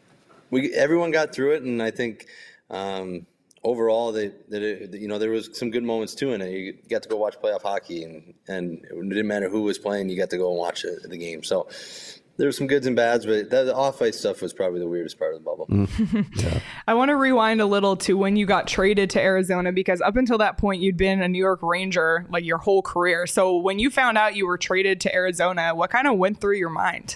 S5: we everyone got through it, and I think um, overall, they, that it, you know, there was some good moments too in it. You got to go watch playoff hockey, and, and it didn't matter who was playing, you got to go and watch the, the game. So there were some goods and bads, but that, the off-ice stuff was probably the weirdest part of the bubble.
S2: Mm. Yeah.
S1: I want to rewind a little to when you got traded to Arizona, because up until that point, you'd been a New York Ranger like your whole career. So when you found out you were traded to Arizona, what kind of went through your mind?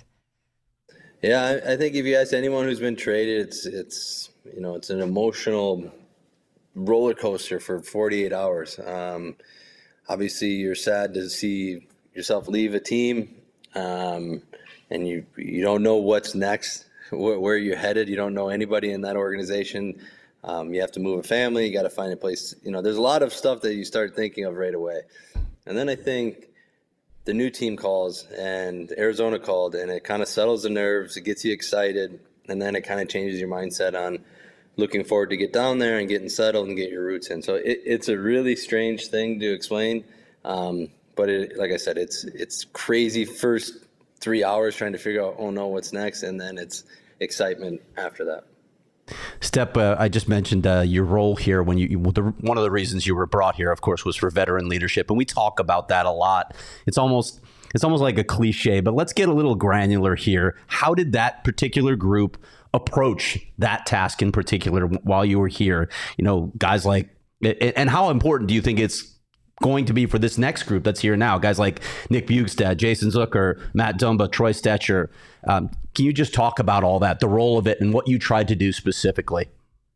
S5: Yeah, I, I think if you ask anyone who's been traded, it's it's you know it's an emotional roller coaster for forty-eight hours. Um, obviously, you're sad to see yourself leave a team. Um, and you you don't know what's next, where, where you're headed. You don't know anybody in that organization. Um, you have to move a family. You got to find a place. You know, there's a lot of stuff that you start thinking of right away. And then I think the new team calls, and Arizona called, and it kind of settles the nerves. It gets you excited, and then it kind of changes your mindset on looking forward to get down there and getting settled and get your roots in. So it, it's a really strange thing to explain. Um, but it, like I said, it's it's crazy first three hours trying to figure out, oh no, what's next? And then it's excitement after that.
S2: Step, uh, I just mentioned uh, your role here when you, the, one of the reasons you were brought here, of course, was for veteran leadership. And we talk about that a lot. It's almost, it's almost like a cliche, but let's get a little granular here. How did that particular group approach that task in particular while you were here? You know, guys like, and how important do you think it's going to be for this next group that's here now? Guys like Nick Bjugstad, Jason Zucker, Matt Dumba, Troy Stetcher. Um, can you just talk about all that, the role of it, and what you tried to do specifically?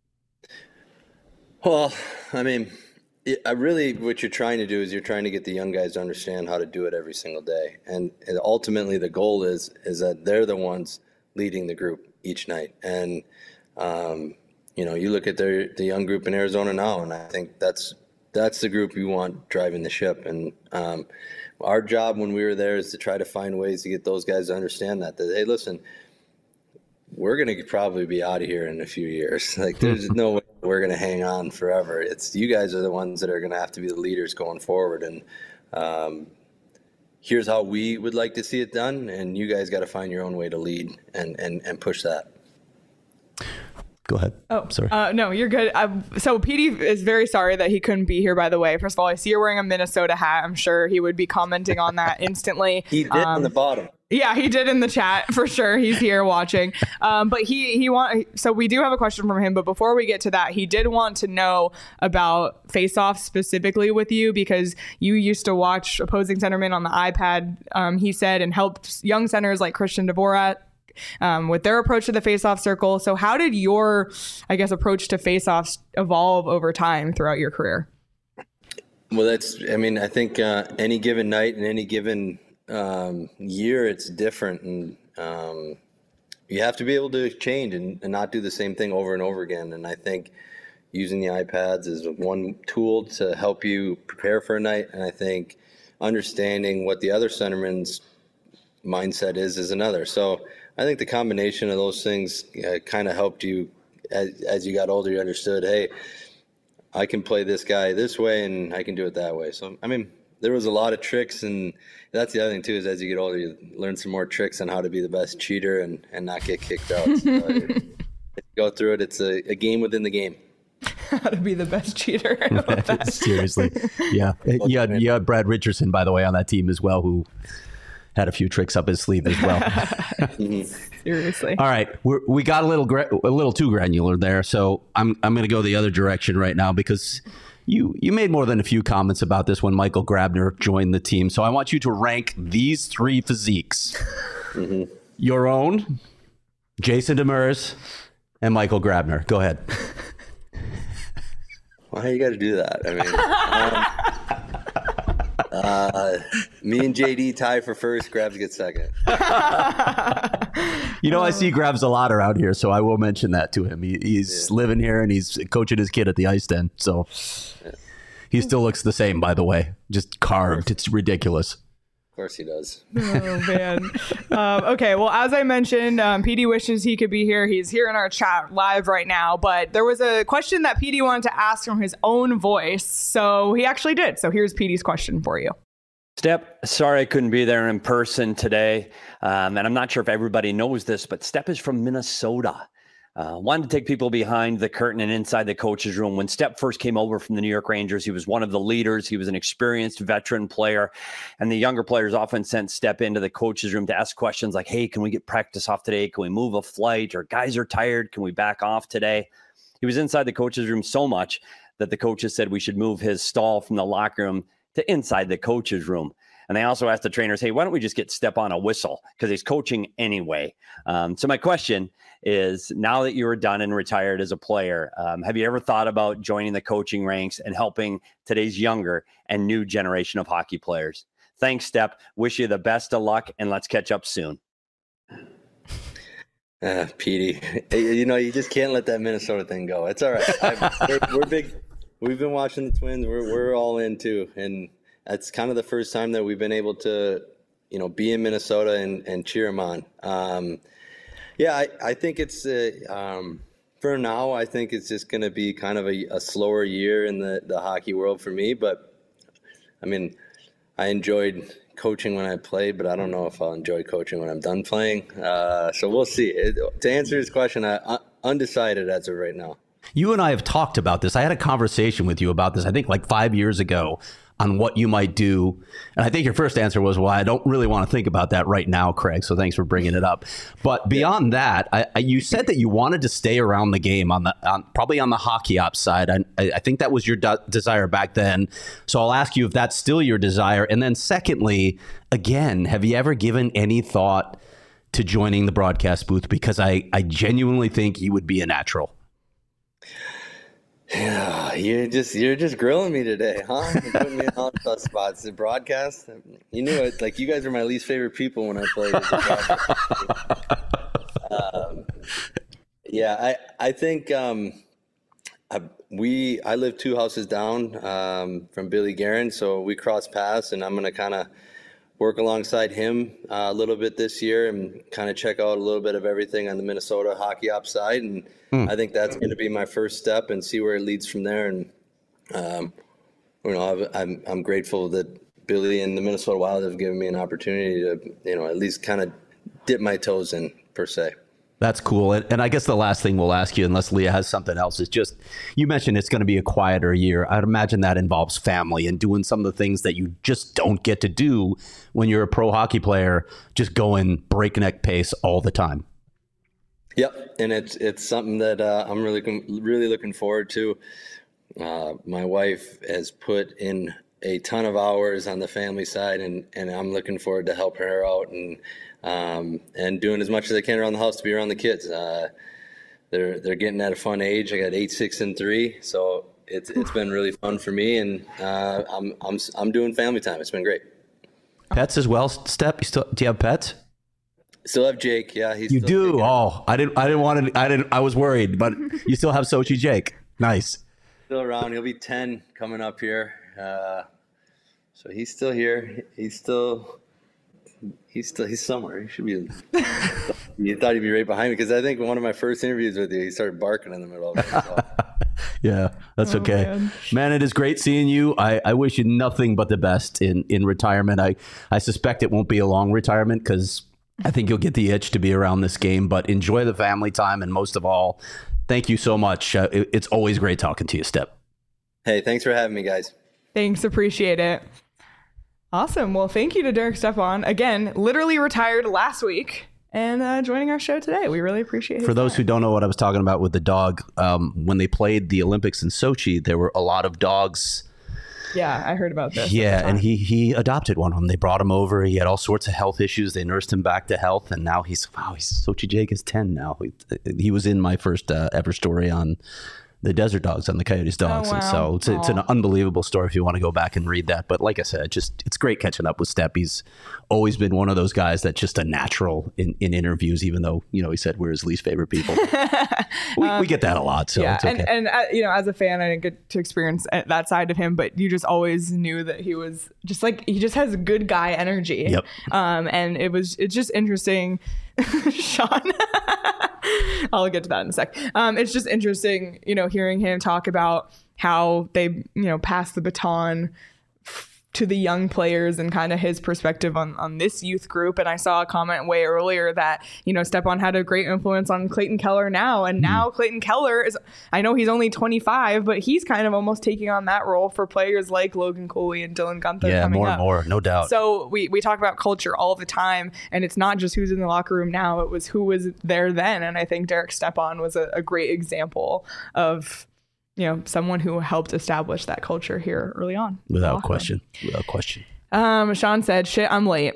S5: Well, I mean, it, I really, what you're trying to do is you're trying to get the young guys to understand how to do it every single day. And, and ultimately the goal is, is that they're the ones leading the group each night. And, um, you know, you look at their, the young group in Arizona now, and I think that's that's the group you want driving the ship. And um, our job when we were there is to try to find ways to get those guys to understand that, that, hey, listen, we're going to probably be out of here in a few years. Like, there's no way we're going to hang on forever. It's you guys are the ones that are going to have to be the leaders going forward. And um, here's how we would like to see it done. And you guys got to find your own way to lead and, and, and push that.
S2: Go ahead.
S1: Oh,
S2: sorry.
S1: Uh, no, you're good. Uh, so Petey is very sorry that he couldn't be here, by the way. First of all, I see you're wearing a Minnesota hat. I'm sure he would be commenting on that instantly.
S5: He did
S1: um,
S5: on the bottom.
S1: Yeah, he did in the chat for sure. He's here watching. Um, but he he want so we do have a question from him. But before we get to that, he did want to know about face-offs specifically with you, because you used to watch opposing centermen on the iPad. Um, he said, and helped young centers like Christian Dvorak um, with their approach to the face-off circle. So how did your, I guess, approach to face-offs evolve over time throughout your career?
S5: Well, that's. I mean, I think uh, any given night and any given Um, year it's different, and um, you have to be able to change and, and not do the same thing over and over again. And I think using the iPads is one tool to help you prepare for a night, and I think understanding what the other centerman's mindset is is another. So I think the combination of those things uh, kind of helped you as, as you got older. You understood, hey, I can play this guy this way and I can do it that way. So I mean, there was a lot of tricks, and that's the other thing too, is as you get older, you learn some more tricks on how to be the best cheater and, and not get kicked out. So if you go through it, it's a, a game within the game.
S1: How to be the best cheater.
S2: Seriously. Yeah. You had, you had Brad Richardson, by the way, on that team as well, who had a few tricks up his sleeve as well.
S1: Seriously.
S2: All right. We're, we got a little gra- a little too granular there. So I'm, I'm going to go the other direction right now, because You you made more than a few comments about this when Michael Grabner joined the team. So I want you to rank these three physiques. Mm-hmm. Your own, Jason Demers, and Michael Grabner. Go ahead.
S5: Why you got to do that? I mean, um, uh, me and J D tie for first, Grabs get second.
S2: You know, I see Grabs a lot around here, so I will mention that to him. He, he's yeah. living here, and he's coaching his kid at the ice den. So yeah. He still looks the same, by the way. Just carved. It's ridiculous.
S5: Of course he does.
S1: Oh, man. um, okay, well, as I mentioned, um, Petey wishes he could be here. He's here in our chat live right now. But there was a question that Petey wanted to ask from his own voice, so he actually did. So here's Petey's question for you.
S6: Step, sorry I couldn't be there in person today. Um, and I'm not sure if everybody knows this, but Step is from Minnesota. Uh, wanted to take people behind the curtain and inside the coach's room. When Step first came over from the New York Rangers, he was one of the leaders. He was an experienced veteran player. And the younger players often sent Step into the coach's room to ask questions like, hey, can we get practice off today? Can we move a flight? Or guys are tired. Can we back off today? He was inside the coach's room so much that the coaches said we should move his stall from the locker room to inside the coach's room. And they also asked the trainers, hey, why don't we just get Step on a whistle? Because he's coaching anyway. Um, so my question is, now that you are done and retired as a player, um, have you ever thought about joining the coaching ranks and helping today's younger and new generation of hockey players? Thanks, Step. Wish you the best of luck, and let's catch up soon.
S5: Uh, Petey, you know, you just can't let that Minnesota thing go. It's all right. I've, we're, we're big. We've been watching the Twins. We're we're all in too, and it's kind of the first time that we've been able to, you know, be in Minnesota and, and cheer them on. Um, yeah, I, I think it's, uh, um, for now, I think it's just going to be kind of a, a slower year in the, the hockey world for me. But, I mean, I enjoyed coaching when I played, but I don't know if I'll enjoy coaching when I'm done playing. Uh, so we'll see. It, to answer his question, I, I, undecided as of right now.
S2: You and I have talked about this. I had a conversation with you about this, I think like five years ago, on what you might do. And I think your first answer was, well, I don't really want to think about that right now, Craig. So thanks for bringing it up. But beyond yeah. that, I, I, you said that you wanted to stay around the game on the on, probably on the hockey ops side. I, I think that was your de- desire back then. So I'll ask you if that's still your desire. And then secondly, again, have you ever given any thought to joining the broadcast booth? Because I, I genuinely think you would be a natural.
S5: Yeah, you're just you're just grilling me today, huh? You're putting me on tough spots. The broadcast, you knew it. Like, you guys are my least favorite people when I played. um, yeah, I I think um, I, we I live two houses down um, from Billy Guerin, so we cross paths, and I'm going to kind of work alongside him uh, a little bit this year and kind of check out a little bit of everything on the Minnesota hockey ops side. And hmm. I think that's going to be my first step and see where it leads from there. And, um, you know, I'm, I'm grateful that Billy and the Minnesota Wild have given me an opportunity to, you know, at least kind of dip my toes in, per se.
S2: That's cool. And, and I guess the last thing we'll ask you, unless Leah has something else, is just, you mentioned it's going to be a quieter year. I'd imagine that involves family and doing some of the things that you just don't get to do when you're a pro hockey player, just going breakneck pace all the time.
S5: Yep. And it's, it's something that uh, I'm really, really looking forward to. Uh, my wife has put in a ton of hours on the family side, and, and I'm looking forward to help her out and, um, and doing as much as I can around the house to be around the kids. Uh, they're, they're getting at a fun age. I got eight, six, and three. So it's, it's been really fun for me, and uh, I'm, I'm, I'm doing family time. It's been great.
S2: Pets as well, Step? You still, do you have pets?
S5: Still have Jake. Yeah. He's
S2: you
S5: still
S2: do.
S5: taking
S2: Oh, I didn't, I didn't want to, I didn't, I was worried, but you still have Sochi Jake. Nice.
S5: Still around. He'll be ten coming up here. Uh, so he's still here. He's still, he's still, he's somewhere. He should be. You thought he'd be right behind me, because I think one of my first interviews with you, he started barking in the middle of it. So.
S2: Yeah, that's oh, okay. Man. man, it is great seeing you. I, I wish you nothing but the best in, in retirement. I, I suspect it won't be a long retirement, because I think you'll get the itch to be around this game, but enjoy the family time. And most of all, thank you so much. Uh, it, it's always great talking to you, Step.
S5: Hey, thanks for having me, guys.
S1: Thanks. Appreciate it. Awesome. Well, thank you to Derek Stepan. Again, literally retired last week and uh, joining our show today. We really appreciate it.
S2: For those
S1: time.
S2: who don't know what I was talking about with the dog, um, when they played the Olympics in Sochi, there were a lot of dogs.
S1: Yeah, I heard about this.
S2: Yeah, and he he adopted one of them. They brought him over. He had all sorts of health issues. They nursed him back to health, and now he's wow. He's Sochi Jake is ten now. He, he was in my first uh, ever story on the Desert Dogs, on the Coyotes Dogs,
S1: oh, wow.
S2: and so it's, it's an unbelievable story if you want to go back and read that. But like I said, just it's great catching up with Step. He's always been one of those guys that's just a natural in, in interviews, even though, you know, he said we're his least favorite people. we, um, we get that a lot, so
S1: yeah,
S2: it's okay.
S1: And, and uh, you know, as a fan, I didn't get to experience that side of him, but you just always knew that he was just like, he just has good guy energy.
S2: Yep.
S1: Um, and it was, it's just interesting. Sean, I'll get to that in a sec. Um, it's just interesting, you know, hearing him talk about how they, you know, pass the baton to the young players and kind of his perspective on, on this youth group. And I saw a comment way earlier that, you know, Stepan had a great influence on Clayton Keller now. And now Clayton Keller is, I know he's only twenty-five, but he's kind of almost taking on that role for players like Logan Cooley and Dylan Guenther.
S2: Yeah,
S1: coming
S2: more
S1: up.
S2: and more, no doubt.
S1: So we, we talk about culture all the time, and it's not just who's in the locker room now, it was who was there then. And I think Derek Stepan was a, a great example of, you know, someone who helped establish that culture here early on.
S2: Without question. Without question.
S1: Um, Sean said, shit, I'm late.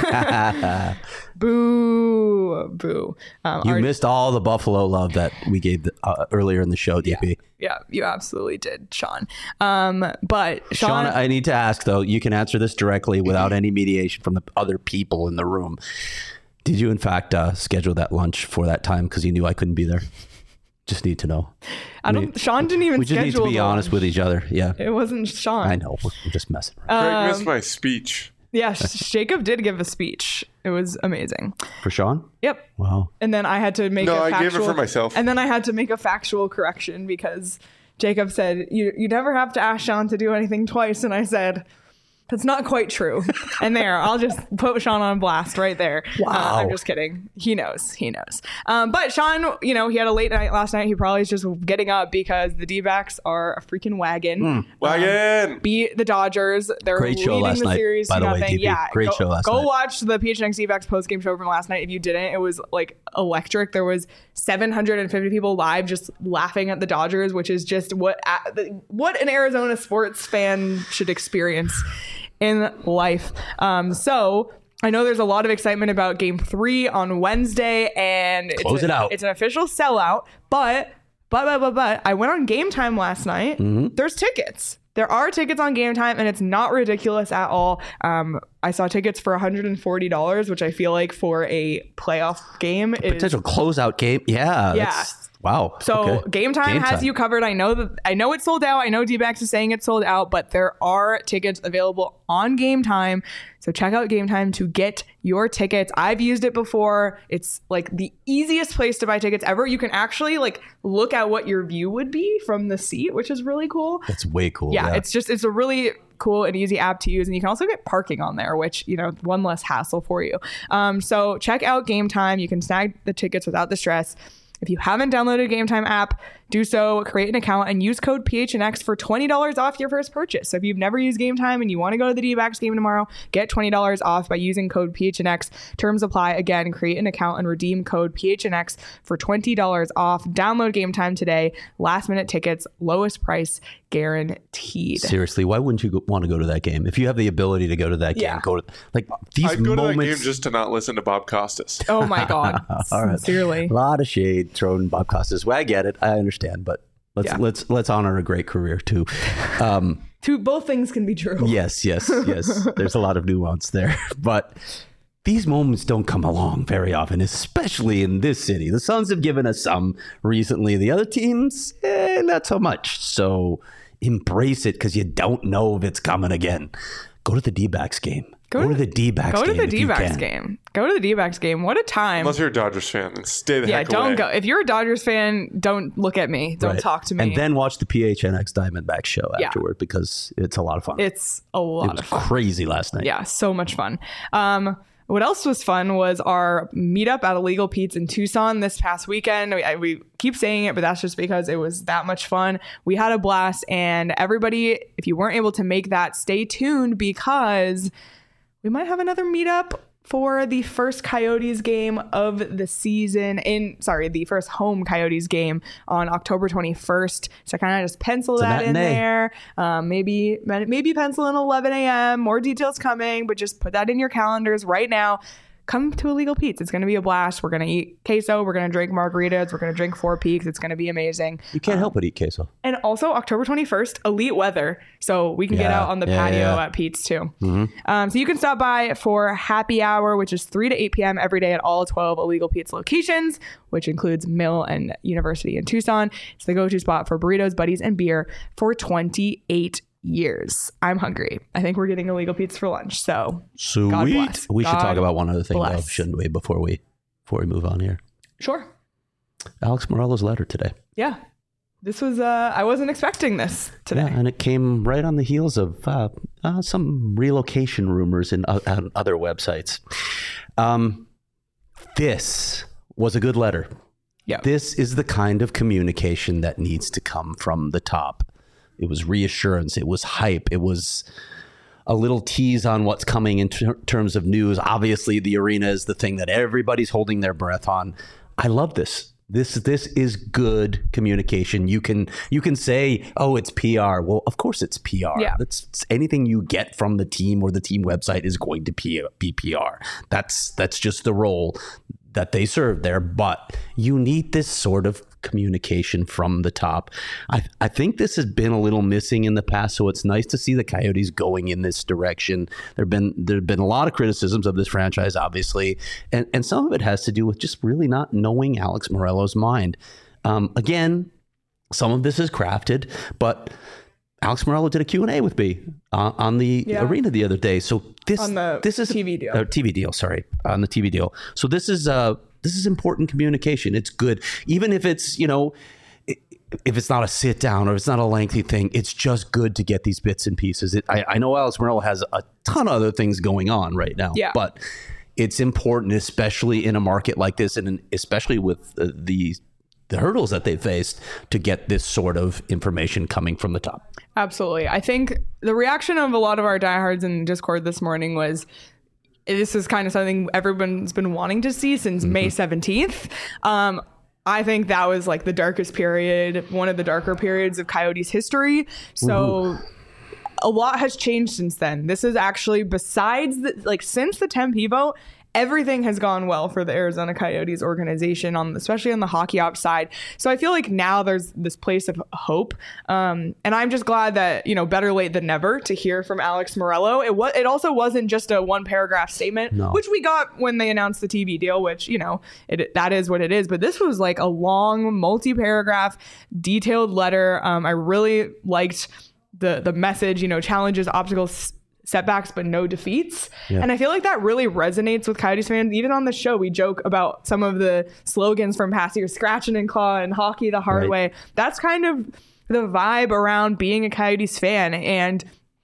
S1: Boo. Boo. Um,
S2: you
S1: our,
S2: missed all the Buffalo love that we gave the, uh, earlier in the show, D P.
S1: Yeah, yeah, you absolutely did, Sean. Um, but Sean,
S2: Sean, I need to ask, though, you can answer this directly without any mediation from the other people in the room. Did you, in fact, uh, schedule that lunch for that time because you knew I couldn't be there? Just need to know.
S1: I don't. We, Sean didn't even.
S2: We just need to be honest with each other. Yeah.
S1: It wasn't Sean.
S2: I know. We're just messing around.
S3: Greg
S1: Um,
S3: missed my speech.
S1: Yeah, Jacob did give a speech. It was amazing.
S2: For Sean?
S1: Yep.
S2: Wow.
S1: And then I had to make.
S3: No,
S1: a
S3: I
S1: factual,
S3: gave it for myself.
S1: And then I had to make a factual correction because Jacob said you you never have to ask Sean to do anything twice, and I said, that's not quite true. And there, I'll just put Sean on blast right there.
S2: Wow.
S1: Uh, I'm just kidding. He knows. He knows. Um, but Sean, you know, he had a late night last night. He probably is just getting up because the D-backs are a freaking wagon.
S2: Mm.
S3: Wagon!
S1: Um, beat the Dodgers. They're
S2: Great show
S1: leading
S2: last
S1: the
S2: night,
S1: series
S2: by
S1: to
S2: the way,
S1: nothing.
S2: D P.
S1: Yeah,
S2: Great
S1: go,
S2: show last
S1: go
S2: night.
S1: watch the P H N X D-backs post-game show from last night. If you didn't, it was like electric. There was seven hundred fifty people live just laughing at the Dodgers, which is just what what an Arizona sports fan should experience in life. Um, so I know there's a lot of excitement about game three on Wednesday, and
S2: Close
S1: it's a,
S2: it out.
S1: It's an official sellout, but, but, but, but, but I went on Game Time last night.
S2: Mm-hmm.
S1: There's tickets. There are tickets on Game Time, and it's not ridiculous at all. Um, I saw tickets for one hundred forty dollars, which I feel like for a playoff game is
S2: Potential closeout game. Yeah.
S1: Yeah.
S2: That's, Wow.
S1: So
S2: okay.
S1: Game Time
S2: Game
S1: has
S2: Time.
S1: you covered. I know that I know it's sold out. I know D-backs is saying it's sold out, but there are tickets available on Game Time. So check out Game Time to get your tickets. I've used it before. It's like the easiest place to buy tickets ever. You can actually like look at what your view would be from the seat, which is really cool.
S2: That's way cool.
S1: Yeah,
S2: Yeah,
S1: it's just it's a really cool and easy app to use, and you can also get parking on there, which, you know, one less hassle for you. Um, so check out Game Time. You can snag the tickets without the stress. If you haven't downloaded a Game Time app, do so, create an account, and use code P H N X for twenty dollars off your first purchase. So if you've never used Game Time and you want to go to the D-backs game tomorrow, get twenty dollars off by using code P H N X. Terms apply. Again, create an account and redeem code P H N X for twenty dollars off. Download Game Time today. Last minute tickets, lowest price guaranteed.
S2: seriously, why wouldn't you go, want to go to that game? If you have the ability to go to that game,
S1: Yeah.
S2: go to like these
S3: I'd go
S2: moments.
S3: to that game just to not listen to Bob Costas.
S1: Oh my God.
S2: All right.
S1: Sincerely.
S2: A lot of shade thrown Bob Costas. Well, I get it. I understand, but let's
S1: Yeah.
S2: let's let's honor a great career too. Um,
S1: Two, both things can be true.
S2: yes, yes, yes. There's a lot of nuance there, but these moments don't come along very often, especially in this city. The Suns have given us some recently. The other teams, eh, not so much. So embrace it because you don't know if it's coming again. Go to the D-backs game. Go,
S1: Go
S2: to
S1: to-
S2: the D-backs
S1: Go
S2: game.
S1: to the
S2: if you
S1: D-backs
S2: can.
S1: game. Go to the D-backs game. What a time.
S3: Unless you're a Dodgers fan, then stay the
S1: Yeah,
S3: heck
S1: don't
S3: away.
S1: go. If you're a Dodgers fan, don't look at me. Don't
S2: Right.
S1: talk to me.
S2: And then watch the P H N X Diamondback show
S1: Yeah.
S2: afterward because it's a lot of fun.
S1: it's a
S2: it
S1: lot
S2: was
S1: of fun.
S2: crazy last night.
S1: Yeah, so much fun. Um, what else was fun was our meetup at Illegal Pete's in Tucson this past weekend. We, I, we keep saying it, but that's just because it was that much fun. We had a blast, and everybody, if you weren't able to make that, stay tuned because we might have another meetup for the first Coyotes game of the season in, sorry, the first home Coyotes game on October twenty-first. So kind of just pencil
S2: It's a
S1: that in
S2: matinee.
S1: there. Um, maybe, maybe pencil in eleven a.m. More details coming, but just put that in your calendars right now. Come to Illegal Pete's. It's going to be a blast. We're going to eat queso. We're going to drink margaritas. We're going to drink Four Peaks. It's going to be amazing.
S2: You can't help but eat queso.
S1: And also October twenty-first, elite weather. So we can get
S2: Yeah,
S1: out on the
S2: yeah,
S1: patio
S2: yeah.
S1: at Pete's too. Um, so you can stop by for happy hour, which is three to eight p.m. every day at all twelve Illegal Pete's locations, which includes Mill and University in Tucson. It's the go-to spot for burritos, buddies, and beer for twenty-eight years. I'm hungry. I think we're getting Illegal Pete's for lunch. So
S2: Sweet.
S1: God bless.
S2: We should
S1: God
S2: talk about one other thing, though,
S1: bless.
S2: shouldn't we, before we before we move on here?
S1: sure.
S2: Alex Morello's letter today.
S1: Yeah. This was, uh, I wasn't expecting this today.
S2: Yeah, and it came right on the heels of uh, uh, some relocation rumors in uh, on other websites. Um, this was a good letter.
S1: Yeah.
S2: This is the kind of communication that needs to come from the top. It was reassurance. It was hype. It was a little tease on what's coming in ter- terms of news. Obviously, the arena is the thing that everybody's holding their breath on. I love this. This this is good communication. You can you can say, oh, it's P R. Well, of course it's P R.
S1: Yeah.
S2: That's it's anything you get from the team or the team website is going to be, be P R. That's that's just the role that they serve there. But you need this sort of communication from the top. I, I think this has been a little missing in the past, so it's nice to see the Coyotes going in this direction. There've been there've been a lot of criticisms of this franchise, obviously, and and some of it has to do with just really not knowing Alex Morello's mind. Um, again, some of this is crafted, but Alex Morello did a Q and A with me uh, on the
S1: Yeah.
S2: arena the other day. So this
S1: On the
S2: this is
S1: T V deal.
S2: uh, T V deal, sorry, on the T V deal. So this is uh this is important communication. It's good, even if it's you know i- if it's not a sit down or it's not a lengthy thing. It's just good to get these bits and pieces. It, I, I know Alex Morello has a ton of other things going on right now,
S1: Yeah.
S2: but it's important, especially in a market like this, and in- especially with uh, the the hurdles that they faced, to get this sort of information coming from the top.
S1: Absolutely. I think the reaction of a lot of our diehards in Discord this morning was, this is kind of something everyone's been wanting to see since May seventeenth. Um, I think that was like the darkest period, one of the darker periods of Coyotes history. So a lot has changed since then. This is actually, besides the, like since the Tempe vote, everything has gone well for the Arizona Coyotes organization, on especially on the hockey ops side. So I feel like now there's this place of hope. Um, and I'm just glad that, you know, better late than never to hear from Alex Morello. It was, it also wasn't just a one paragraph statement,
S2: no.
S1: which we got when they announced the T V deal, which, you know, it, that is what it is. But this was like a long multi-paragraph detailed letter. Um, I really liked the, the message, you know, challenges, obstacles, setbacks, but no defeats. Yeah. And I feel like that really resonates with Coyotes fans. Even on the show, we joke about some of the slogans from past years, scratching and claw and hockey the hard right. way. That's kind of the vibe around being a Coyotes fan. And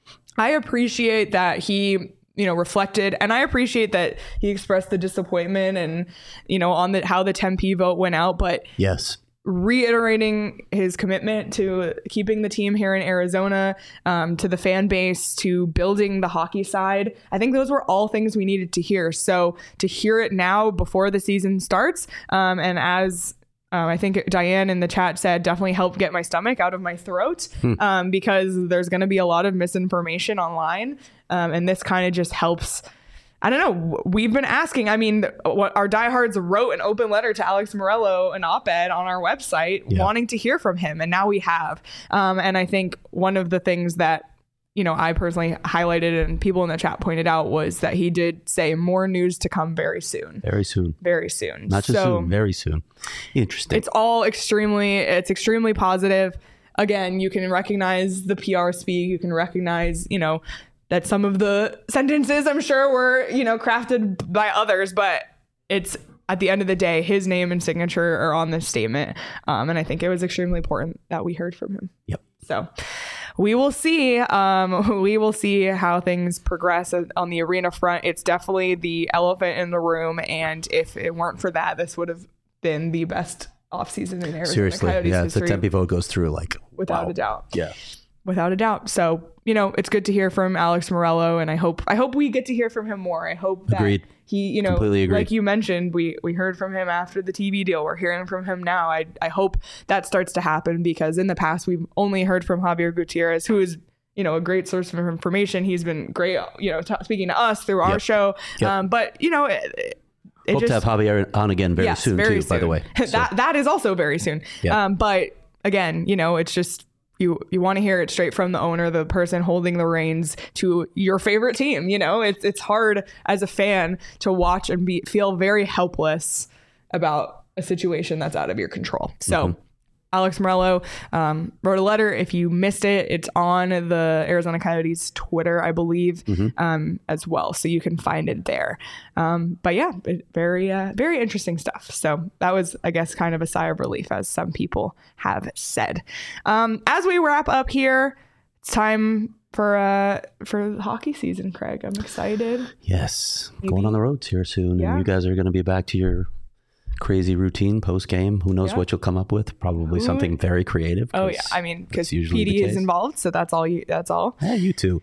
S1: I appreciate that he, you know, reflected, and I appreciate that he expressed the disappointment and, you know, on the, how the Tempe vote went out. But
S2: yes,
S1: reiterating his commitment to keeping the team here in Arizona, um, to the fan base, to building the hockey side. I think those were all things we needed to hear. So to hear it now before the season starts, um, and as um, I think Diane in the chat said, definitely helped get my stomach out of my throat, hmm. um, because there's going to be a lot of misinformation online. Um, and this kind of just helps. I don't know. We've been asking. I mean, what our diehards wrote an open letter to Alex Morello, an op-ed on our website, yeah. wanting to hear from him, and now we have. Um, and I think one of the things that, you know, I personally highlighted and people in the chat pointed out was that he did say more news to come very soon.
S2: Very soon.
S1: Very soon.
S2: Not just
S1: so
S2: soon. Very soon. Interesting.
S1: It's all extremely. It's extremely positive. Again, you can recognize the P R speak. You can recognize, you know, that some of the sentences, I'm sure, were, you know, crafted by others, but it's at the end of the day, his name and signature are on this statement. Um, and I think it was extremely important that we heard from him.
S2: Yep.
S1: So we will see. Um, we will see how things progress on the arena front. It's definitely the elephant in the room. And if it weren't for that, this would have been the best offseason in Arizona
S2: Seriously,
S1: Coyotes
S2: yeah,
S1: history.
S2: if the Tempe vote goes through, like,
S1: without
S2: wow.
S1: a doubt.
S2: Yeah.
S1: Without a doubt. So, you know, it's good to hear from Alex Morello, and I hope I hope we get to hear from him more. I hope that
S2: Agreed.
S1: he, you know,
S2: Completely agreed.
S1: like you mentioned, we we heard from him after the T V deal. We're hearing from him now. I I hope that starts to happen, because in the past we've only heard from Javier Gutierrez, who is, you know, a great source of information. He's been great, you know, t- speaking to us through our
S2: yep.
S1: show.
S2: Yep.
S1: Um, but, you know, it, it
S2: hope
S1: just,
S2: to have Javier on again very
S1: yes,
S2: soon,
S1: very
S2: too,
S1: soon.
S2: by the way. So.
S1: that That is also very soon.
S2: Yep.
S1: Um, but again, you know, it's just, You you want to hear it straight from the owner, the person holding the reins to your favorite team. You know, it's it's hard as a fan to watch and be feel very helpless about a situation that's out of your control. So mm-hmm. Alex Morello um, wrote a letter. If you missed it, it's on the Arizona Coyotes Twitter, I believe, mm-hmm. um, as well. So you can find it there. Um, but yeah, it, very, uh, very interesting stuff. So that was, I guess, kind of a sigh of relief, as some people have said. Um, as we wrap up here, it's time for uh, for hockey season, Craig. I'm excited.
S2: Yes.
S1: Maybe.
S2: Going on the road here soon.
S1: Yeah.
S2: And you guys are going to be back to your crazy routine post game. Who knows
S1: yeah.
S2: what you'll come up with? Probably
S1: Who?
S2: something very creative.
S1: Oh yeah, I mean, because P D is involved, so that's all. You, that's all.
S2: Yeah, you too.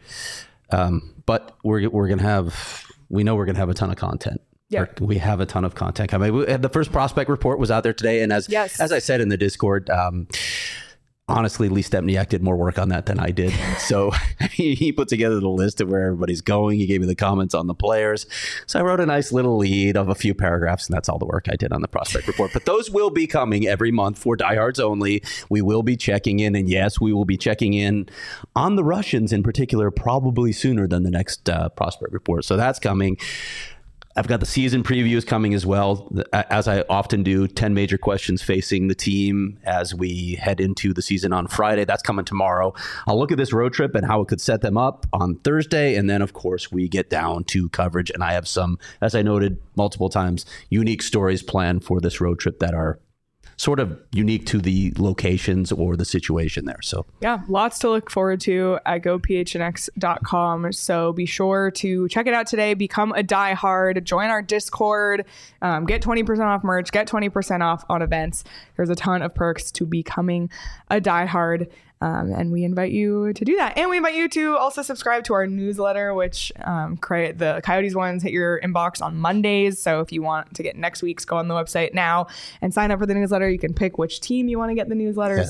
S2: Um, but we're we're gonna have. We know we're gonna have a ton of content.
S1: Yeah,
S2: we have a ton of content coming. We, the first prospect report was out there today, and as
S1: yes.
S2: as I said in the Discord. Um, Honestly, Lee Stepniak did more work on that than I did. So he, he put together the list of where everybody's going. He gave me the comments on the players. So I wrote a nice little lead of a few paragraphs, and that's all the work I did on the prospect report. But those will be coming every month for diehards only. We will be checking in, and yes, we will be checking in on the Russians in particular, probably sooner than the next uh, prospect report. So that's coming. I've got the season previews coming as well, as I often do. ten major questions facing the team as we head into the season on Friday. That's coming tomorrow. I'll look at this road trip and how it could set them up on Thursday. And then, of course, we get down to coverage. And I have some, as I noted multiple times, unique stories planned for this road trip that are sort of unique to the locations or the situation there. So
S1: yeah, lots to look forward to at go p h n x dot com. So be sure to check it out today. Become a diehard. Join our Discord. Um, get twenty percent off merch. Get twenty percent off on events. There's a ton of perks to becoming a diehard. Um, and we invite you to do that. And we invite you to also subscribe to our newsletter, which um, create the Coyotes ones hit your inbox on Mondays. So if you want to get next week's, go on the website now and sign up for the newsletter. You can pick which team you want to get the newsletters
S2: yes.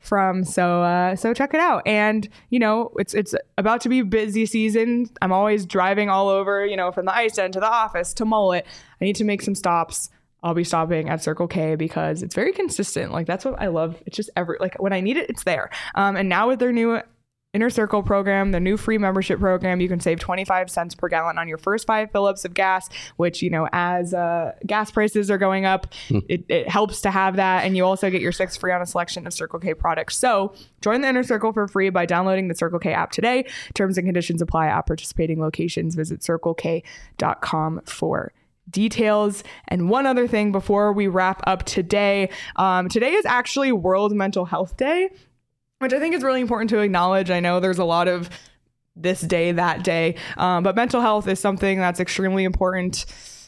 S1: from. So uh, so check it out. And, you know, it's it's about to be busy season. I'm always driving all over, you know, from the ice den to the office to Mullet. I need to make some stops. I'll be stopping at Circle K because it's very consistent. Like, that's what I love. It's just every, like, when I need it, it's there. Um, and now with their new Inner Circle program, the new free membership program, you can save twenty-five cents per gallon on your first five fill-ups of gas, which, you know, as uh, gas prices are going up, mm. it, it helps to have that. And you also get your six free on a selection of Circle K products. So join the Inner Circle for free by downloading the Circle K app today. Terms and conditions apply at participating locations. Visit circle k dot com for details. And one other thing before we wrap up today, um, today is actually World Mental Health Day, which I think is really important to acknowledge. I know there's a lot of this day, that day, um, but mental health is something that's extremely important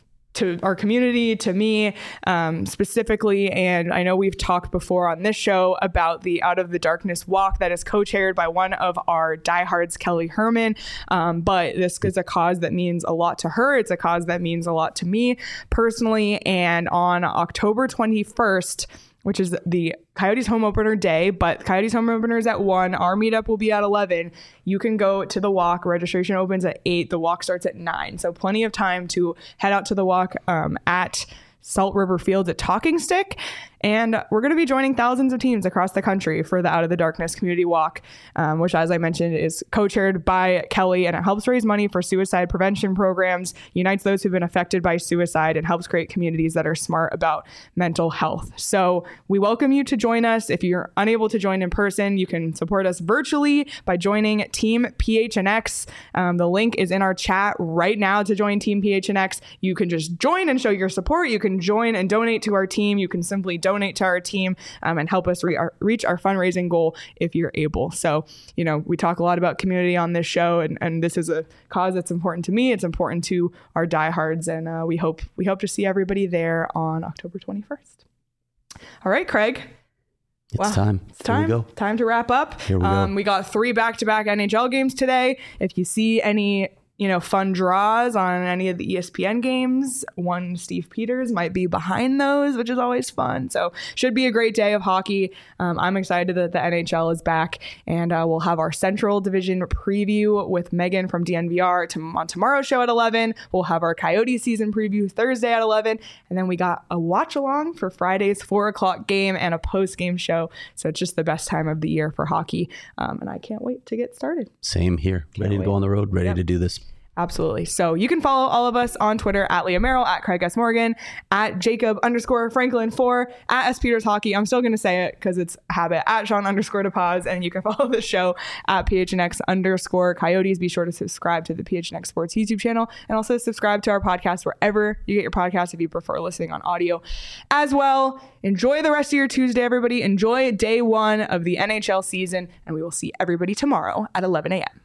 S1: to our community, to me um, specifically. And I know we've talked before on this show about the Out of the Darkness walk that is co-chaired by one of our diehards, Kelly Herman. Um, but this is a cause that means a lot to her. It's a cause that means a lot to me personally. And on October twenty-first, which is the Coyotes home opener day, but Coyotes home opener is at one. Our meetup will be at eleven. You can go to the walk. Registration opens at eight. The walk starts at nine. So plenty of time to head out to the walk um, at Salt River Fields at Talking Stick. And we're going to be joining thousands of teams across the country for the Out of the Darkness Community Walk, um, which, as I mentioned, is co-chaired by Kelly, and it helps raise money for suicide prevention programs, unites those who've been affected by suicide, and helps create communities that are smart about mental health. So we welcome you to join us. If you're unable to join in person, you can support us virtually by joining Team P H N X. Um, the link is in our chat right now to join Team P H N X. You can just join and show your support. You can join and donate to our team. You can simply donate donate to our team um, and help us re- our, reach our fundraising goal if you're able. So, you know, we talk a lot about community on this show, and, and this is a cause that's important to me. It's important to our diehards, and uh, we hope we hope to see everybody there on October twenty-first. All right, Craig.
S2: It's
S1: wow.
S2: time.
S1: It's time.
S2: Here we go.
S1: Time to wrap up.
S2: Here we
S1: um,
S2: go.
S1: We got three back-to-back N H L games today. If you see any you know, fun draws on any of the E S P N games, one Steve Peters might be behind those, which is always fun. So should be a great day of hockey. Um, I'm excited that the N H L is back, and uh, we'll have our Central Division preview with Megan from D N V R to, on tomorrow's show at eleven. We'll have our Coyote season preview Thursday at eleven. And then we got a watch along for Friday's four o'clock game and a post game show. So it's just the best time of the year for hockey. Um, and I can't wait to get started.
S2: Same here.
S1: Can't
S2: ready
S1: wait.
S2: to go on the road, ready
S1: Yep.
S2: to do this.
S1: Absolutely. So you can follow all of us on Twitter at Leah Merrill, at Craig S. Morgan, at Jacob underscore Franklin four, at S. Peters Hockey. I'm still going to say it because it's habit, at Sean underscore DePaz. And you can follow the show at P H N X underscore Coyotes. Be sure to subscribe to the P H N X Sports YouTube channel, and also subscribe to our podcast wherever you get your podcast if you prefer listening on audio as well. Enjoy the rest of your Tuesday, everybody. Enjoy day one of the N H L season, and we will see everybody tomorrow at eleven a.m.